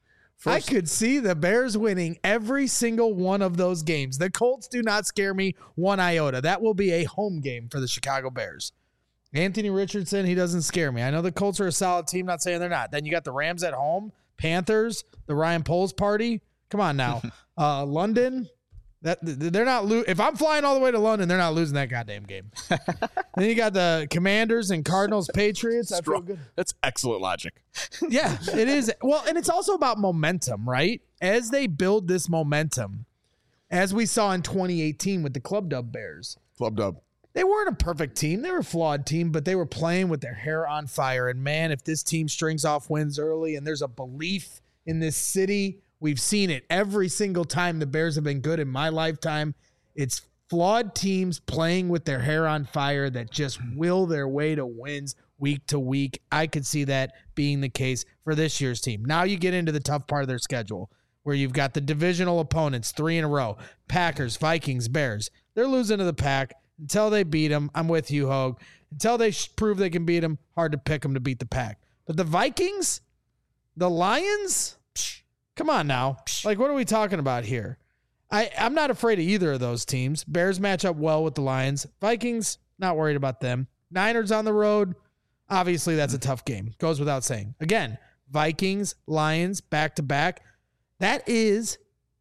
I could see the Bears winning every single one of those games. The Colts do not scare me one iota. That will be a home game for the Chicago Bears. Anthony Richardson, he doesn't scare me. I know the Colts are a solid team, not saying they're not. Then you got the Rams at home, Panthers, the Ryan Poles party. Come on now. London. They're not if I'm flying all the way to London, they're not losing that goddamn game. Then you got the Commanders and Cardinals, Patriots. I feel good. That's excellent logic. Yeah, it is. Well, and it's also about momentum, right? As they build this momentum, as we saw in 2018 with the Club Dub Bears. Club Dub. They weren't a perfect team. They were a flawed team, but they were playing with their hair on fire. And man, if this team strings off wins early and there's a belief in this city, we've seen it every single time the Bears have been good in my lifetime. It's flawed teams playing with their hair on fire that just will their way to wins week to week. I could see that being the case for this year's team. Now you get into the tough part of their schedule where you've got the divisional opponents 3 in a row, Packers, Vikings, Bears. They're losing to the Pack until they beat them. I'm with you, Hogue. Until they prove they can beat them, hard to pick them to beat the Pack. But the Vikings, the Lions, come on now. Like, what are we talking about here? I'm not afraid of either of those teams. Bears match up well with the Lions. Vikings, not worried about them. Niners on the road. Obviously, that's a tough game. Goes without saying. Again, Vikings, Lions, back-to-back. That is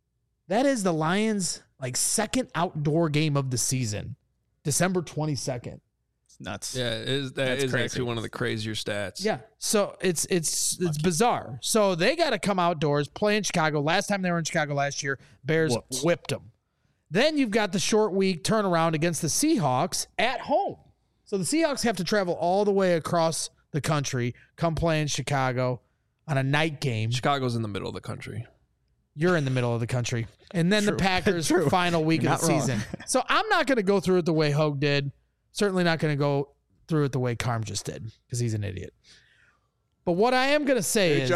the Lions' second outdoor game of the season. December 22nd. It's nuts. Yeah, that is actually one of the crazier stats. Yeah. So it's bizarre. So they got to come outdoors, play in Chicago. Last time they were in Chicago last year, Bears whipped them. Then you've got the short week turnaround against the Seahawks at home. So the Seahawks have to travel all the way across the country, come play in Chicago on a night game. Chicago's in the middle of the country. You're in the middle of the country. And then the Packers' final week of the season. So I'm not going to go through it the way Hogue did. Certainly not going to go through it the way Carm just did because he's an idiot. But what I am going to say is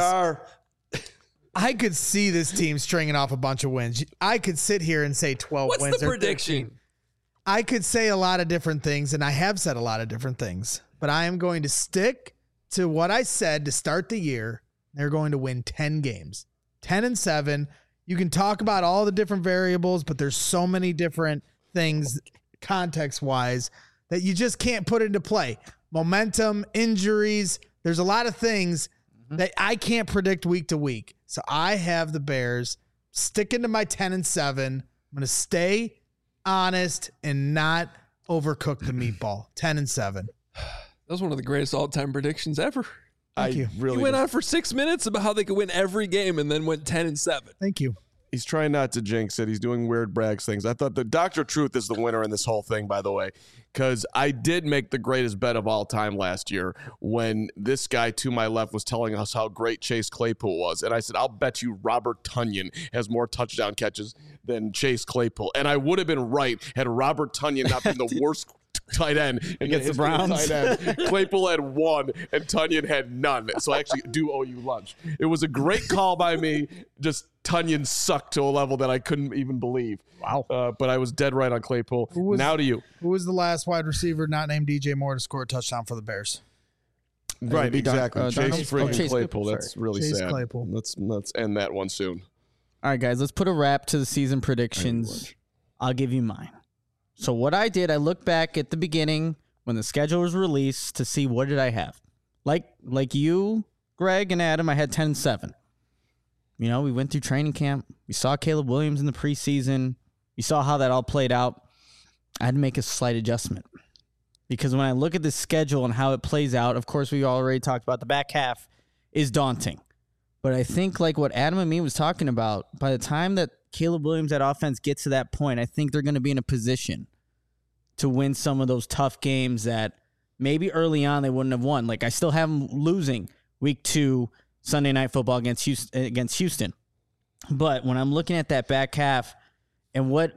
I could see this team stringing off a bunch of wins. I could sit here and say 12 wins. What's the prediction? I could say a lot of different things, and I have said a lot of different things. But I am going to stick to what I said to start the year. They're going to win 10 games. 10-7. You can talk about all the different variables, but there's so many different things context-wise that you just can't put into play. Momentum, injuries, there's a lot of things that I can't predict week to week. So I have the Bears sticking to my 10-7. I'm going to stay honest and not overcook the meatball. 10-7. That was one of the greatest all-time predictions ever. Thank you. Really he went on for 6 minutes about how they could win every game and then went 10-7. Thank you. He's trying not to jinx it. He's doing weird brags things. I thought the Dr. Truth is the winner in this whole thing, by the way, because I did make the greatest bet of all time last year when this guy to my left was telling us how great Chase Claypool was. And I said, I'll bet you Robert Tonyan has more touchdown catches than Chase Claypool. And I would have been right had Robert Tonyan not been the worst tight end Against the Browns. Tight end. Claypool had 1 and Tunyon had none. So I actually do owe you lunch. It was a great call by me. Just Tunyon sucked to a level that I couldn't even believe. Wow. But I was dead right on Claypool. Now to you. Who was the last wide receiver not named DJ Moore to score a touchdown for the Bears? Right, exactly. Chase Chase Claypool. Claypool, That's really Chase sad. Claypool. Let's end that one soon. All right, guys, let's put a wrap to the season predictions. I'll give you mine. So what I did, I looked back at the beginning when the schedule was released to see what did I have. Like you, Greg, and Adam, I had 10-7. You know, we went through training camp. We saw Caleb Williams in the preseason. We saw how that all played out. I had to make a slight adjustment. Because when I look at the schedule and how it plays out, of course, we already talked about the back half is daunting. But I think like what Adam and me was talking about, by the time that Caleb Williams, that offense gets to that point, I think they're going to be in a position to win some of those tough games that maybe early on they wouldn't have won. Like I still have them losing week 2 Sunday Night Football against Houston. But when I'm looking at that back half and what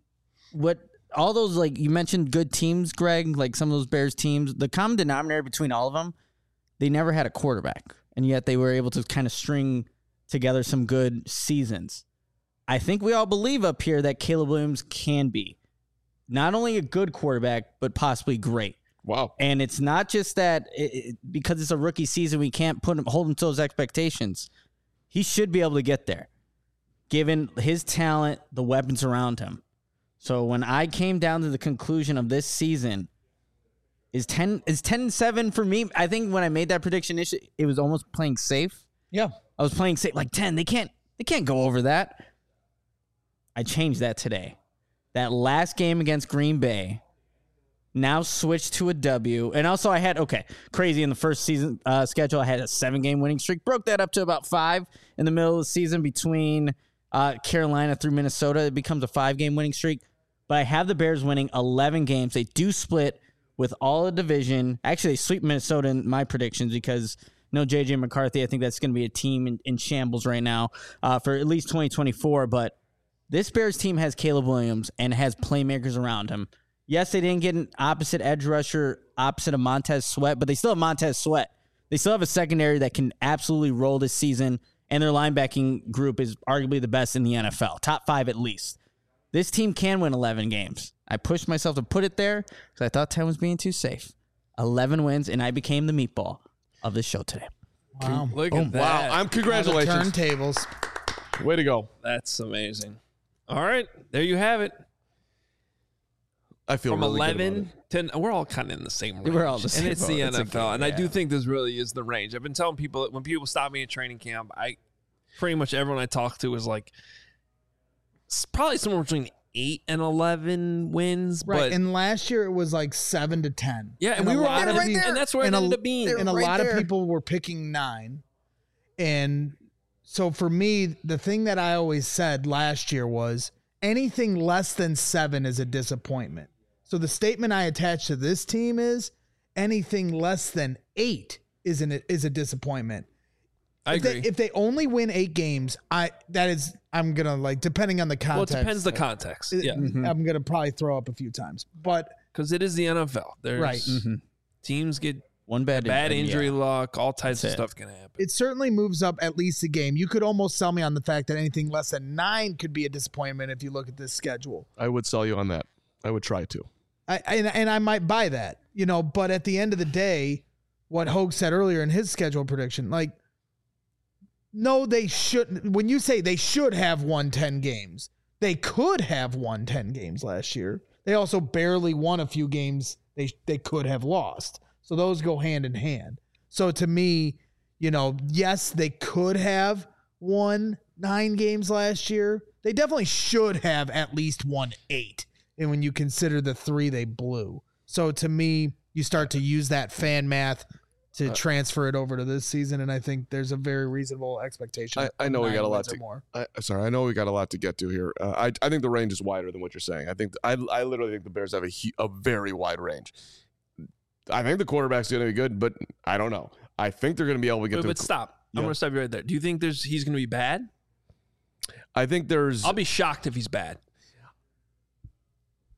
all those, like you mentioned good teams, Greg, like some of those Bears teams, the common denominator between all of them, they never had a quarterback. And yet they were able to kind of string together some good seasons. I think we all believe up here that Caleb Williams can be not only a good quarterback, but possibly great. Wow. And it's not just that because it's a rookie season, we can't hold him to those expectations. He should be able to get there, given his talent, the weapons around him. So when I came down to the conclusion of this season, is 10-7 for me. I think when I made that prediction, it was almost playing safe. Yeah. I was playing safe, like 10. They can't go over that. I changed that today. That last game against Green Bay now switched to a W. And also I had, crazy in the first season schedule, I had a 7-game winning streak. Broke that up to about 5 in the middle of the season between Carolina through Minnesota. It becomes a 5-game winning streak. But I have the Bears winning 11 games. They do split with all the division. Actually, they sweep Minnesota in my predictions because no J.J. McCarthy. I think that's going to be a team in shambles right now for at least 2024. But this Bears team has Caleb Williams and has playmakers around him. Yes, they didn't get an opposite edge rusher, opposite of Montez Sweat, but they still have Montez Sweat. They still have a secondary that can absolutely roll this season, and their linebacking group is arguably the best in the NFL, top 5 at least. This team can win 11 games. I pushed myself to put it there because I thought 10 was being too safe. 11 wins, and I became the meatball of this show today. Wow. Look at that. Wow. I'm congratulations. Turntables. Way to go. That's amazing. All right. There you have it. I feel From really 11 to we're all kind of in the same range. We're all the same and it's the boat. It's a NFL. game, And I do yeah. think this really is the range. I've been telling people when people stop me at training camp, pretty much everyone I talk to is like it's probably somewhere between 8 and 11 wins. Right. But And last year it was like 7 to 10. yeah, and we were lot on of it, people- and that's where it and ended up being. And a lot of people were picking 9. And so for me, the thing that I always said last year was anything less than 7 is a disappointment. So the statement I attach to this team is anything less than 8 is a disappointment. I agree. If they only win 8 games, I'm gonna like depending on the Well, it context. depends the context. Yeah, I'm gonna probably throw up a few times, but because it is the NFL. There's Right. teams get One bad injury luck, all types That's of it. stuff can happen. it certainly moves up at least a game. You could almost sell me on the fact that anything less than 9 could be a disappointment if you look at this schedule. I would sell you on that. I would try to. And I might buy that, but at the end of the day, what Hogue said earlier in his schedule prediction, like, no, they shouldn't. When you say they should have won 10 games, they could have won 10 games last year. They also barely won a few games they could have lost. So those go hand in hand. So to me, yes, they could have won 9 games last year. They definitely should have at least won 8. And when you consider the 3 they blew. So to me, you start to use that fan math to transfer it over to this season, and I think there's a very reasonable expectation. I know we got a lot to. more. I know we got a lot to get to here. I think the range is wider than what you're saying. I think I literally think the Bears have a very wide range. I think the quarterback's going to be good, but I don't know. I think they're going to be able to get to. But stop. Yeah. I'm going to stop you right there. Do you think he's going to be bad? I think there's. I'll be shocked if he's bad.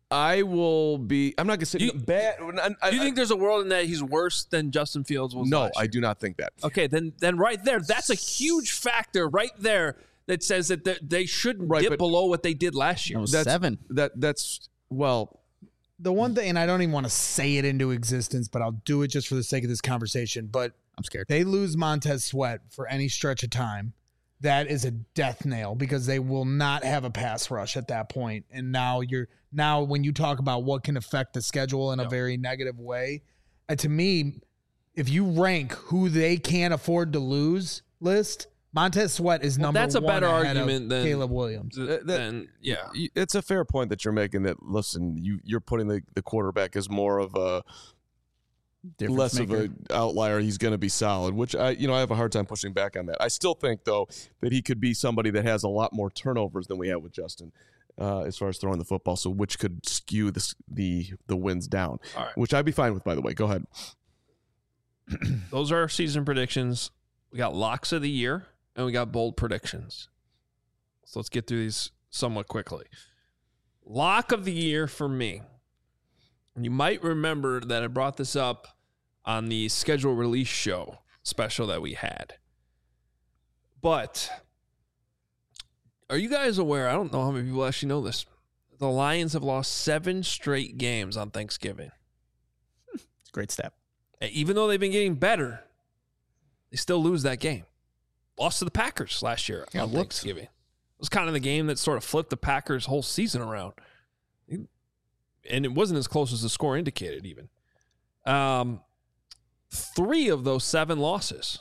I'm not going to say bad. Do you think there's a world in that he's worse than Justin Fields was? No, I do not think that. Okay, then right there, that's a huge factor right there that says that they shouldn't dip below what they did last year. That's 7. That's well. The one thing, and I don't even want to say it into existence, but I'll do it just for the sake of this conversation. But I'm scared. They lose Montez Sweat for any stretch of time. That is a death nail because they will not have a pass rush at that point. And now when you talk about what can affect the schedule in a very negative way, to me, if you rank who they can't afford to lose list, Montez Sweat is number one. That's a better argument than Caleb Williams. It's a fair point that you're making. That listen, you're putting the quarterback as more of a less of an outlier. He's going to be solid, which I have a hard time pushing back on that. I still think though that he could be somebody that has a lot more turnovers than we have with Justin, as far as throwing the football. So which could skew the wins down, which I'd be fine with. By the way, go ahead. Those are our season predictions. We got locks of the year and we got bold predictions. So let's get through these somewhat quickly. Lock of the year for me. And you might remember that I brought this up on the schedule release show special that we had. But are you guys aware? I don't know how many people actually know this. The Lions have lost 7 straight games on Thanksgiving. It's a great step. Even though they've been getting better, they still lose that game. Lost to the Packers last year on Thanksgiving. It was kind of the game that sort of flipped the Packers' whole season around. And it wasn't as close as the score indicated even. 3 of those 7 losses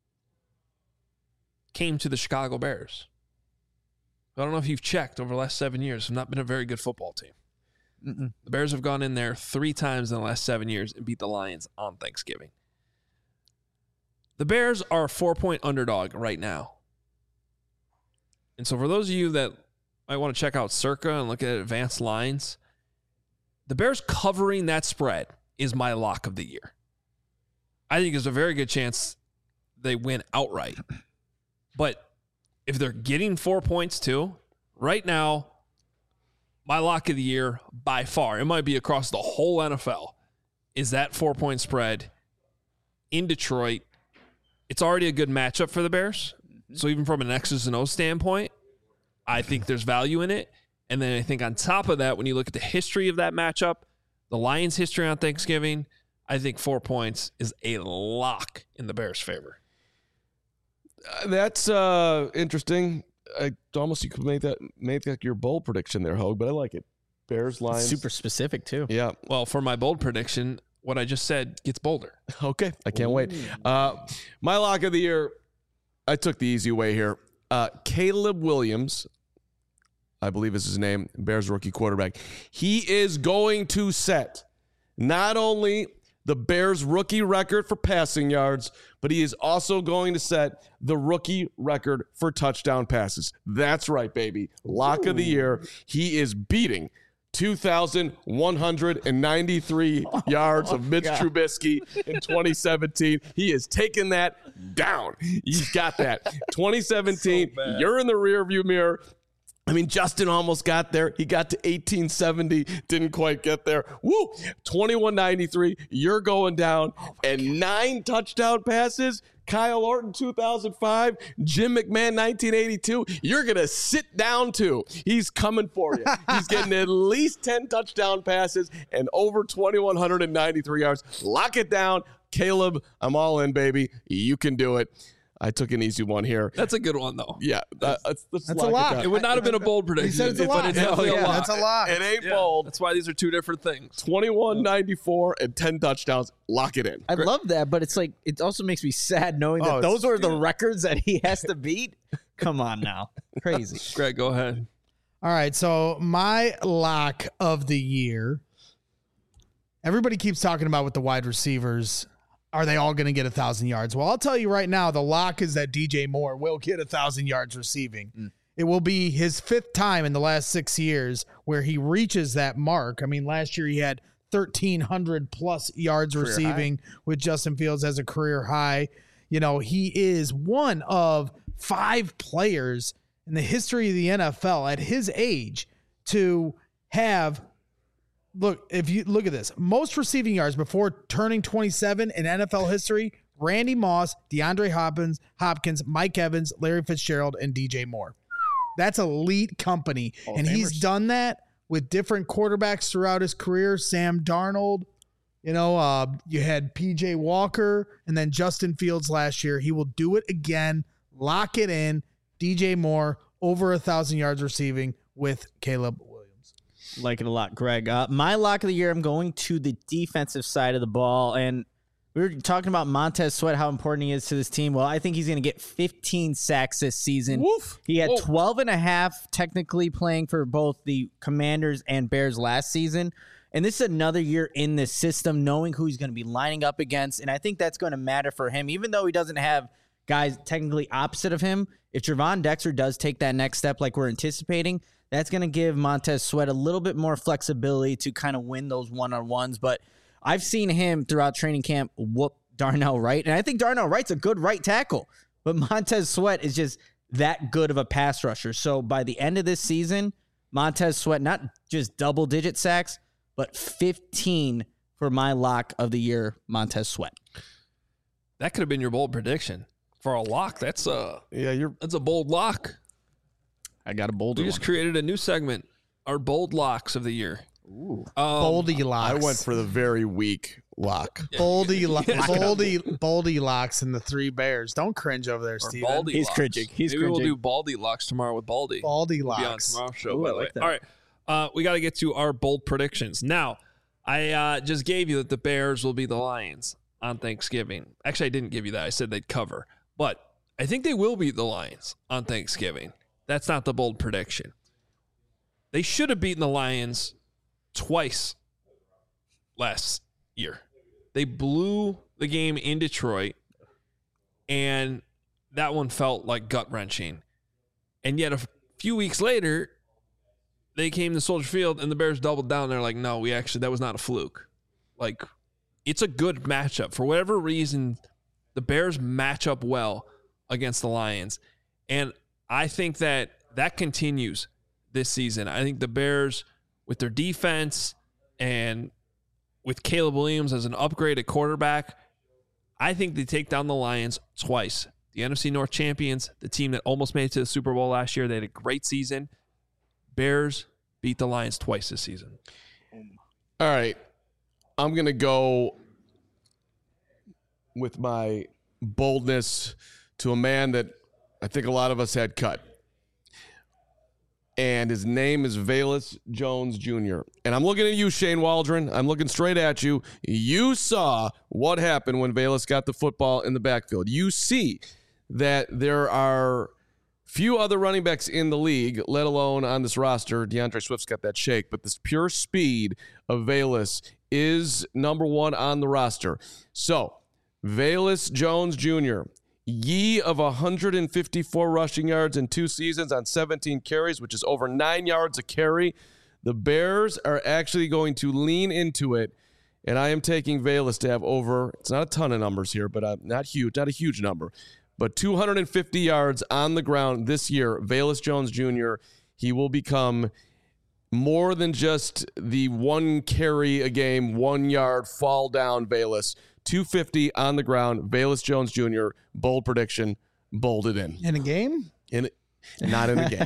came to the Chicago Bears. I don't know if you've checked over the last 7 years. Have not been a very good football team. Mm-mm. The Bears have gone in there 3 times in the last 7 years and beat the Lions on Thanksgiving. The Bears are a 4-point underdog right now. And so for those of you that might want to check out Circa and look at advanced lines, the Bears covering that spread is my lock of the year. I think there's a very good chance they win outright. But if they're getting 4 points too, right now, my lock of the year by far, it might be across the whole NFL, is that 4-point spread in Detroit. It's already a good matchup for the Bears. So even from an X's and O's standpoint, I think there's value in it. And then I think on top of that, when you look at the history of that matchup, the Lions' history on Thanksgiving, I think 4 points is a lock in the Bears' favor. That's interesting. You could make that your bold prediction there, Hogue, but I like it. Bears, Lions. Super specific, too. Yeah. Well, for my bold prediction, what I just said gets bolder. Okay. I can't wait. My lock of the year, I took the easy way here. Caleb Williams, I believe is his name, Bears rookie quarterback. He is going to set not only the Bears rookie record for passing yards, but he is also going to set the rookie record for touchdown passes. That's right, baby. Lock of the year. He is beating 2,193 yards of Mitch Trubisky in 2017. He has taken that down. He's got that. 2017, you're in the rearview mirror. I mean, Justin almost got there. He got to 1870, didn't quite get there. Woo! 2193, you're going down. And 9 touchdown passes. Kyle Orton, 2005. Jim McMahon, 1982. You're going to sit down, too. He's coming for you. He's getting at least 10 touchdown passes and over 2,193 yards. Lock it down. Caleb, I'm all in, baby. You can do it. I took an easy one here. That's a good one, though. Yeah. Let's a lot. It would not have been a bold prediction. He said it's a lot. But it's definitely a lot. That's a lot. It ain't bold. That's why these are 2 different things. 2194 and 10 touchdowns. Lock it in. I love that, but it's like it also makes me sad knowing that those are the records that he has to beat. Come on now. Crazy. Greg, go ahead. All right, so my lock of the year, everybody keeps talking about with the wide receivers, are they all going to get 1,000 yards? Well, I'll tell you right now, the lock is that DJ Moore will get 1,000 yards receiving. It will be his 5th time in the last 6 years where he reaches that mark. I mean, last year he had 1,300 plus yards receiving with Justin Fields as a career high. You know, he is one of 5 players in the history of the NFL at his age to have look, if you look at this, most receiving yards before turning 27 in NFL history, Randy Moss, DeAndre Hopkins, Mike Evans, Larry Fitzgerald, and DJ Moore. That's elite company. And he's done that with different quarterbacks throughout his career. Sam Darnold, you had PJ Walker and then Justin Fields last year. He will do it again. Lock it in. DJ Moore, over 1,000 yards receiving with Caleb Williams. Like it a lot, Greg. My lock of the year, I'm going to the defensive side of the ball. And we were talking about Montez Sweat, how important he is to this team. Well, I think he's going to get 15 sacks this season. Woof. He had 12 and a half technically playing for both the Commanders and Bears last season. And this is another year in this system, knowing who he's going to be lining up against. And I think that's going to matter for him, even though he doesn't have guys technically opposite of him. If Trevon Dexter does take that next step like we're anticipating, that's going to give Montez Sweat a little bit more flexibility to kind of win those one-on-ones. But I've seen him throughout training camp whoop Darnell Wright, and I think Darnell Wright's a good right tackle, but Montez Sweat is just that good of a pass rusher. So by the end of this season, Montez Sweat, not just double-digit sacks, but 15 for my lock of the year, Montez Sweat. That could have been your bold prediction for a lock. That's a bold lock. I got a bold. We just created a new segment, our bold locks of the year. Ooh. Boldy locks. I went for the very weak lock. Boldy locks and the 3 Bears. Don't cringe over there, Steven. Baldy He's locks. cringing. Maybe we'll do Baldy locks tomorrow with Baldy. Baldy We'll be on locks. tomorrow's show. Ooh, by I the way. like that. All right. We got to get to our bold predictions. Now, I just gave you that the Bears will be the Lions on Thanksgiving. Actually, I didn't give you that. I said they'd cover. But I think they will beat the Lions on Thanksgiving. That's not the bold prediction. They should have beaten the Lions twice last year. They blew the game in Detroit, and that one felt like gut-wrenching. And yet a few weeks later, they came to Soldier Field, and the Bears doubled down. They're like, no, that was not a fluke. Like, it's a good matchup. For whatever reason, the Bears match up well against the Lions. And I think that continues this season. I think the Bears, with their defense and with Caleb Williams as an upgraded quarterback, I think they take down the Lions twice. The NFC North champions, the team that almost made it to the Super Bowl last year, they had a great season. Bears beat the Lions twice this season. All right. I'm going to go with my boldness to a man that I think a lot of us had cut. And his name is Velus Jones Jr. And I'm looking at you, Shane Waldron. I'm looking straight at you. You saw what happened when Velus got the football in the backfield. You see that there are few other running backs in the league, let alone on this roster. DeAndre Swift's got that shake, but this pure speed of Velus is number one on the roster. So, Velus Jones Jr., ye of 154 rushing yards in 2 seasons on 17 carries, which is over 9 yards a carry. The Bears are actually going to lean into it, and I am taking Velus to have over, it's not a ton of numbers here, but not a huge number, but 250 yards on the ground this year. Velus Jones Jr., he will become more than just the 1 carry a game, 1 yard fall down Velus. 250 on the ground. Velus Jones Jr., bold prediction, bolded in. In a game? Not in a game.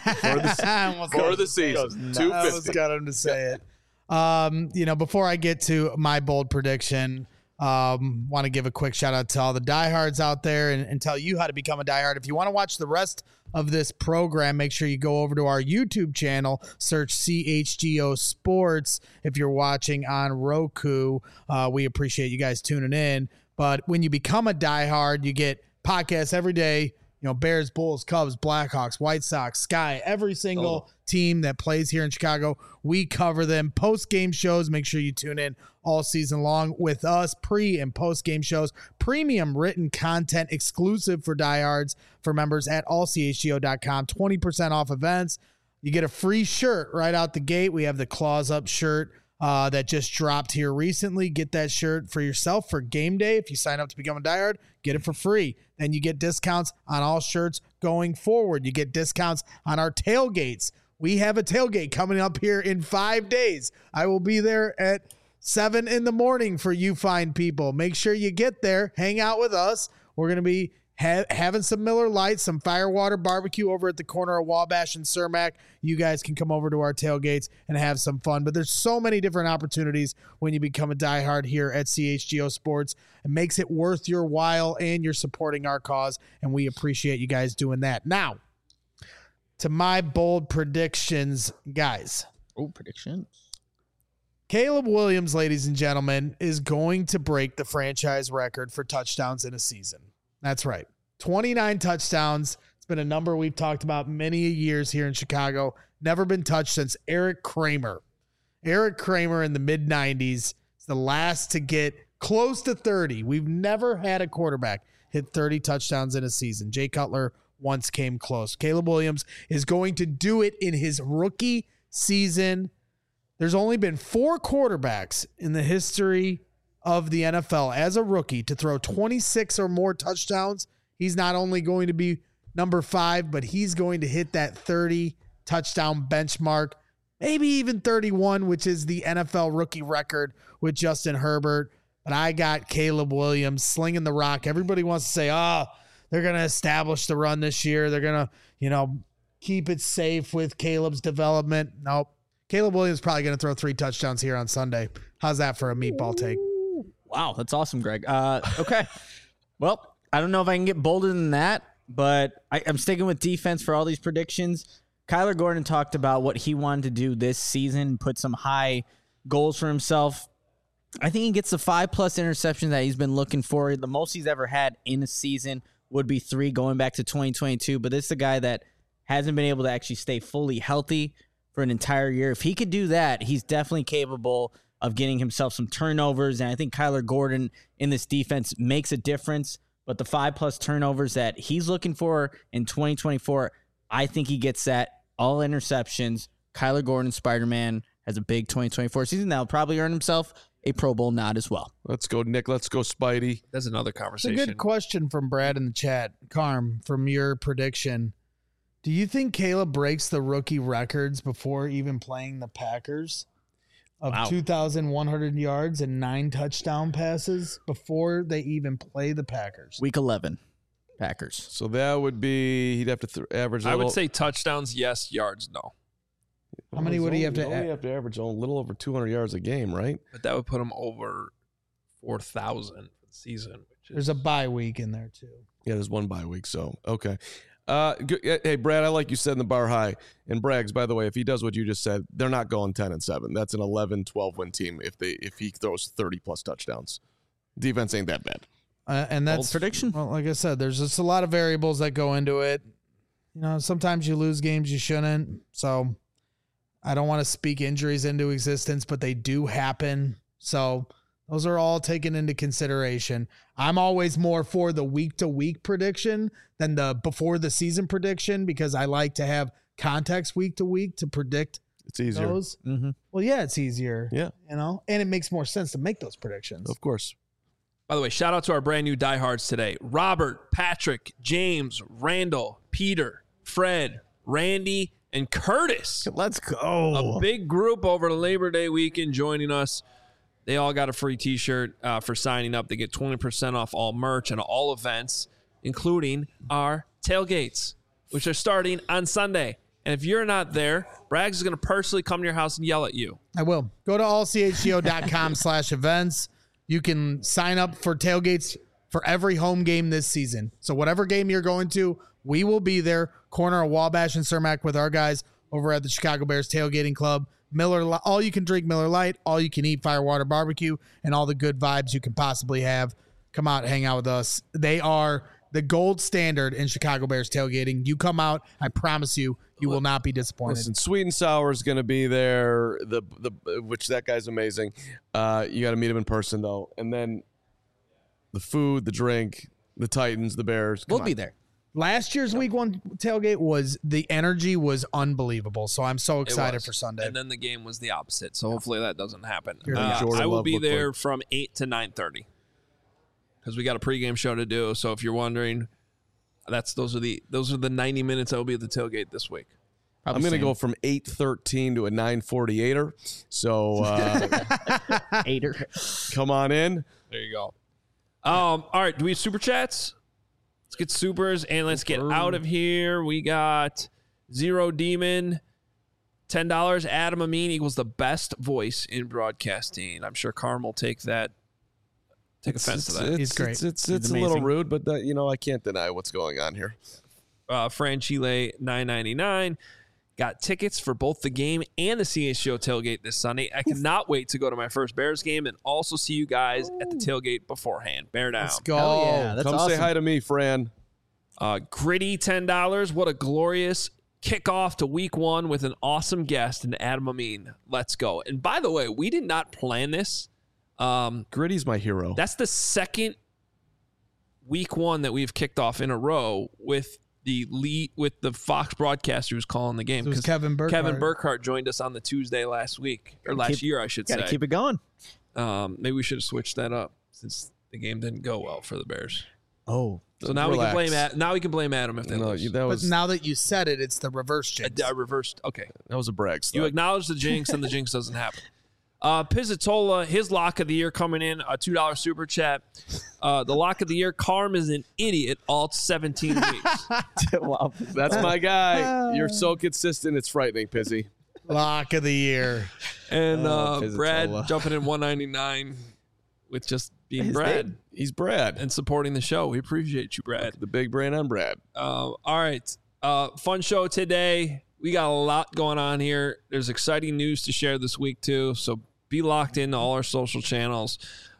For the season. 250. I almost got him to say it. Before I get to my bold prediction, want to give a quick shout out to all the diehards out there and tell you how to become a diehard. If you want to watch the rest of this program, make sure you go over to our YouTube channel, search CHGO Sports. If you're watching on Roku, we appreciate you guys tuning in. But when you become a diehard, you get podcasts every day. Bears, Bulls, Cubs, Blackhawks, White Sox, Sky, every single team that plays here in Chicago, we cover them. Post-game shows, make sure you tune in all season long with us. Pre- and post-game shows, premium written content exclusive for diehards for members at allchgo.com. 20% off events. You get a free shirt right out the gate. We have the Claws Up shirt that just dropped here recently. Get that shirt for yourself for game day. If you sign up to become a diehard, get it for free. Then you get discounts on all shirts going forward. You get discounts on our tailgates we have a tailgate coming up here in 5 days. I will be there at 7 in the morning for you fine people. Make sure you get there, hang out with us. We're going to be having some Miller Lite, some Firewater barbecue over at the corner of Wabash and Cermak. You guys can come over to our tailgates and have some fun. But there's so many different opportunities when you become a diehard here at CHGO Sports. It makes it worth your while, and you're supporting our cause, and we appreciate you guys doing that. Now, to my bold predictions, guys. Oh, predictions. Caleb Williams, ladies and gentlemen, is going to break the franchise record for touchdowns in a season. That's right. 29 touchdowns. It's been a number we've talked about many years here in Chicago. Never been touched since Eric Kramer. Eric Kramer in the mid-90s is the last to get close to 30. We've never had a quarterback hit 30 touchdowns in a season. Jay Cutler once came close. Caleb Williams is going to do it in his rookie season. There's only been 4 quarterbacks in the history of the NFL as a rookie to throw 26 or more touchdowns. He's not only going to be number 5, but he's going to hit that 30 touchdown benchmark, maybe even 31, which is the NFL rookie record with Justin Herbert. But I got Caleb Williams slinging the rock. Everybody wants to say, they're going to establish the run this year. They're going to, keep it safe with Caleb's development. Nope. Caleb Williams probably going to throw 3 touchdowns here on Sunday. How's that for a meatball take? Wow, that's awesome, Greg. Okay. Well, I don't know if I can get bolder than that, but I'm sticking with defense for all these predictions. Kyler Gordon talked about what he wanted to do this season, put some high goals for himself. I think he gets the 5+ interceptions that he's been looking for. The most he's ever had in a season would be 3 going back to 2022, but this is a guy that hasn't been able to actually stay fully healthy for an entire year. If he could do that, he's definitely capable of getting himself some turnovers, and I think Kyler Gordon in this defense makes a difference. But the 5+ turnovers that he's looking for in 2024, I think he gets that. All interceptions. Kyler Gordon, Spider-Man, has a big 2024 season that will probably earn himself a Pro Bowl nod as well. Let's go, Nick. Let's go, Spidey. That's another conversation. It's a good question from Brad in the chat. Carm, from your prediction, do you think Caleb breaks the rookie records before even playing the Packers? Of 2,100 yards and 9 touchdown passes before they even play the Packers. Week 11, Packers. So that would be, he'd have to average. I would say touchdowns, yes. Yards, no. How many would he have to only have to average a little over 200 yards a game, right? But that would put him over 4,000 for the season. There's a bye week in there, too. Yeah, there's one bye week, so okay. Hey, Brad, I like you said in the bar high. And Braggs, by the way, if he does what you just said, they're not going 10-7. That's an 11-12 win team if he throws 30+ touchdowns. Defense ain't that bad. And that's bold prediction. Well, like I said, there's just a lot of variables that go into it. Sometimes you lose games you shouldn't. So I don't want to speak injuries into existence, but they do happen. So those are all taken into consideration. I'm always more for the week-to-week prediction than the before-the-season prediction because I like to have context week-to-week to predict It's easier. those. Mm-hmm. Well, yeah, it's easier. Yeah. And it makes more sense to make those predictions. Of course. By the way, shout out to our brand new diehards today. Robert, Patrick, James, Randall, Peter, Fred, Randy, and Curtis. Let's go. A big group over the Labor Day weekend joining us. They all got a free t-shirt for signing up. They get 20% off all merch and all events, including our tailgates, which are starting on Sunday. And if you're not there, Braggs is going to personally come to your house and yell at you. I will. Go to allchgo.com/events. You can sign up for tailgates for every home game this season. So whatever game you're going to, we will be there. Corner of Wabash and Cermak with our guys over at the Chicago Bears Tailgating Club. All you can drink Miller Lite, all you can eat Firewater barbecue, and all the good vibes you can possibly have. Come out, hang out with us. They are the gold standard in Chicago Bears tailgating. You come out, I promise you, you will not be disappointed. Listen, Sweet and Sour is going to be there. Which that guy's amazing. You got to meet him in person though, and then the food, the drink, the Titans, the Bears. We'll be there. Last year's week 1 tailgate the energy was unbelievable. So I'm so excited for Sunday. And then the game was the opposite. So hopefully that doesn't happen. Jordan I will Love be looked there like- from 8 to 9:30 because we got a pregame show to do. So if you're wondering, those are the 90 minutes I will be at the tailgate this week. I'm going to go from 8:13 to a 9:48er. So Hater. come on in. There you go. All right. Do we have super chats? Let's get supers and let's get out of here. We got Zero Demon, $10. Adam Amin equals the best voice in broadcasting. I'm sure Carm will take that. Take offense to that. He's great. It's a little rude, but I can't deny what's going on here. Fran Chile, $9.99. Got tickets for both the game and the CHGO tailgate this Sunday. I cannot wait to go to my first Bears game and also see you guys at the tailgate beforehand. Bear down. Let's go. Hell yeah, that's Come awesome. say hi to me, Fran. Gritty, $10. What a glorious kickoff to week 1 with an awesome guest in Adam Amin. Let's go. And by the way, we did not plan this. Gritty's my hero. That's the second week 1 that we've kicked off in a row with the Fox broadcaster who's calling the game. It was Kevin Burkhardt. Kevin Burkhardt joined us on the Tuesday last year, I should say. Got to keep it going. Maybe we should have switched that up since the game didn't go well for the Bears. Oh. So now Relax. we can blame Adam if they lose. But now that you said it, it's the reverse jinx. I reversed. Okay. That was a brag You stunt. acknowledge the jinx, and the jinx doesn't happen. Pizzatola, his lock of the year coming in, a $2 super chat. The lock of the year, Carm is an idiot all 17 weeks. Wow. That's my guy. You're so consistent. It's frightening, Pizzy. Lock of the year. And Pizzatola. Brad jumping in $1.99 with just being Brad He's Brad. and supporting the show. We appreciate you, Brad. The big brain on Brad. All right. Fun show today. We got a lot going on here. There's exciting news to share this week, too. So be locked into all our social channels.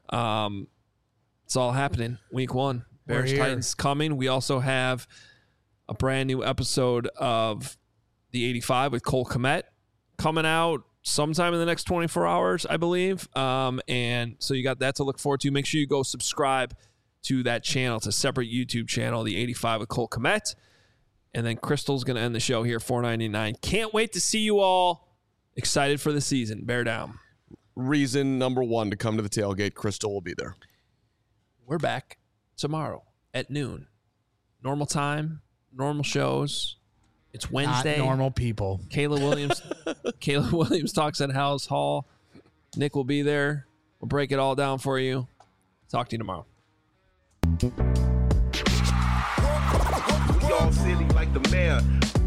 It's all happening. Week 1. Bears here. Titans coming. We also have a brand new episode of the 85 with Cole Kmet coming out sometime in the next 24 hours, I believe. And so you got that to look forward to. Make sure you go subscribe to that channel. It's a separate YouTube channel, the 85 with Cole Kmet. And then Crystal's going to end the show here, $4.99. Can't wait to see you all. Excited for the season. Bear down. Reason number 1 to come to the tailgate. Crystal will be there. We're back tomorrow at noon. Normal time, normal shows. It's Wednesday. Not normal people. Kayla Williams talks at House Hall. Nick will be there. We'll break it all down for you. Talk to you tomorrow. We all silly like the mayor.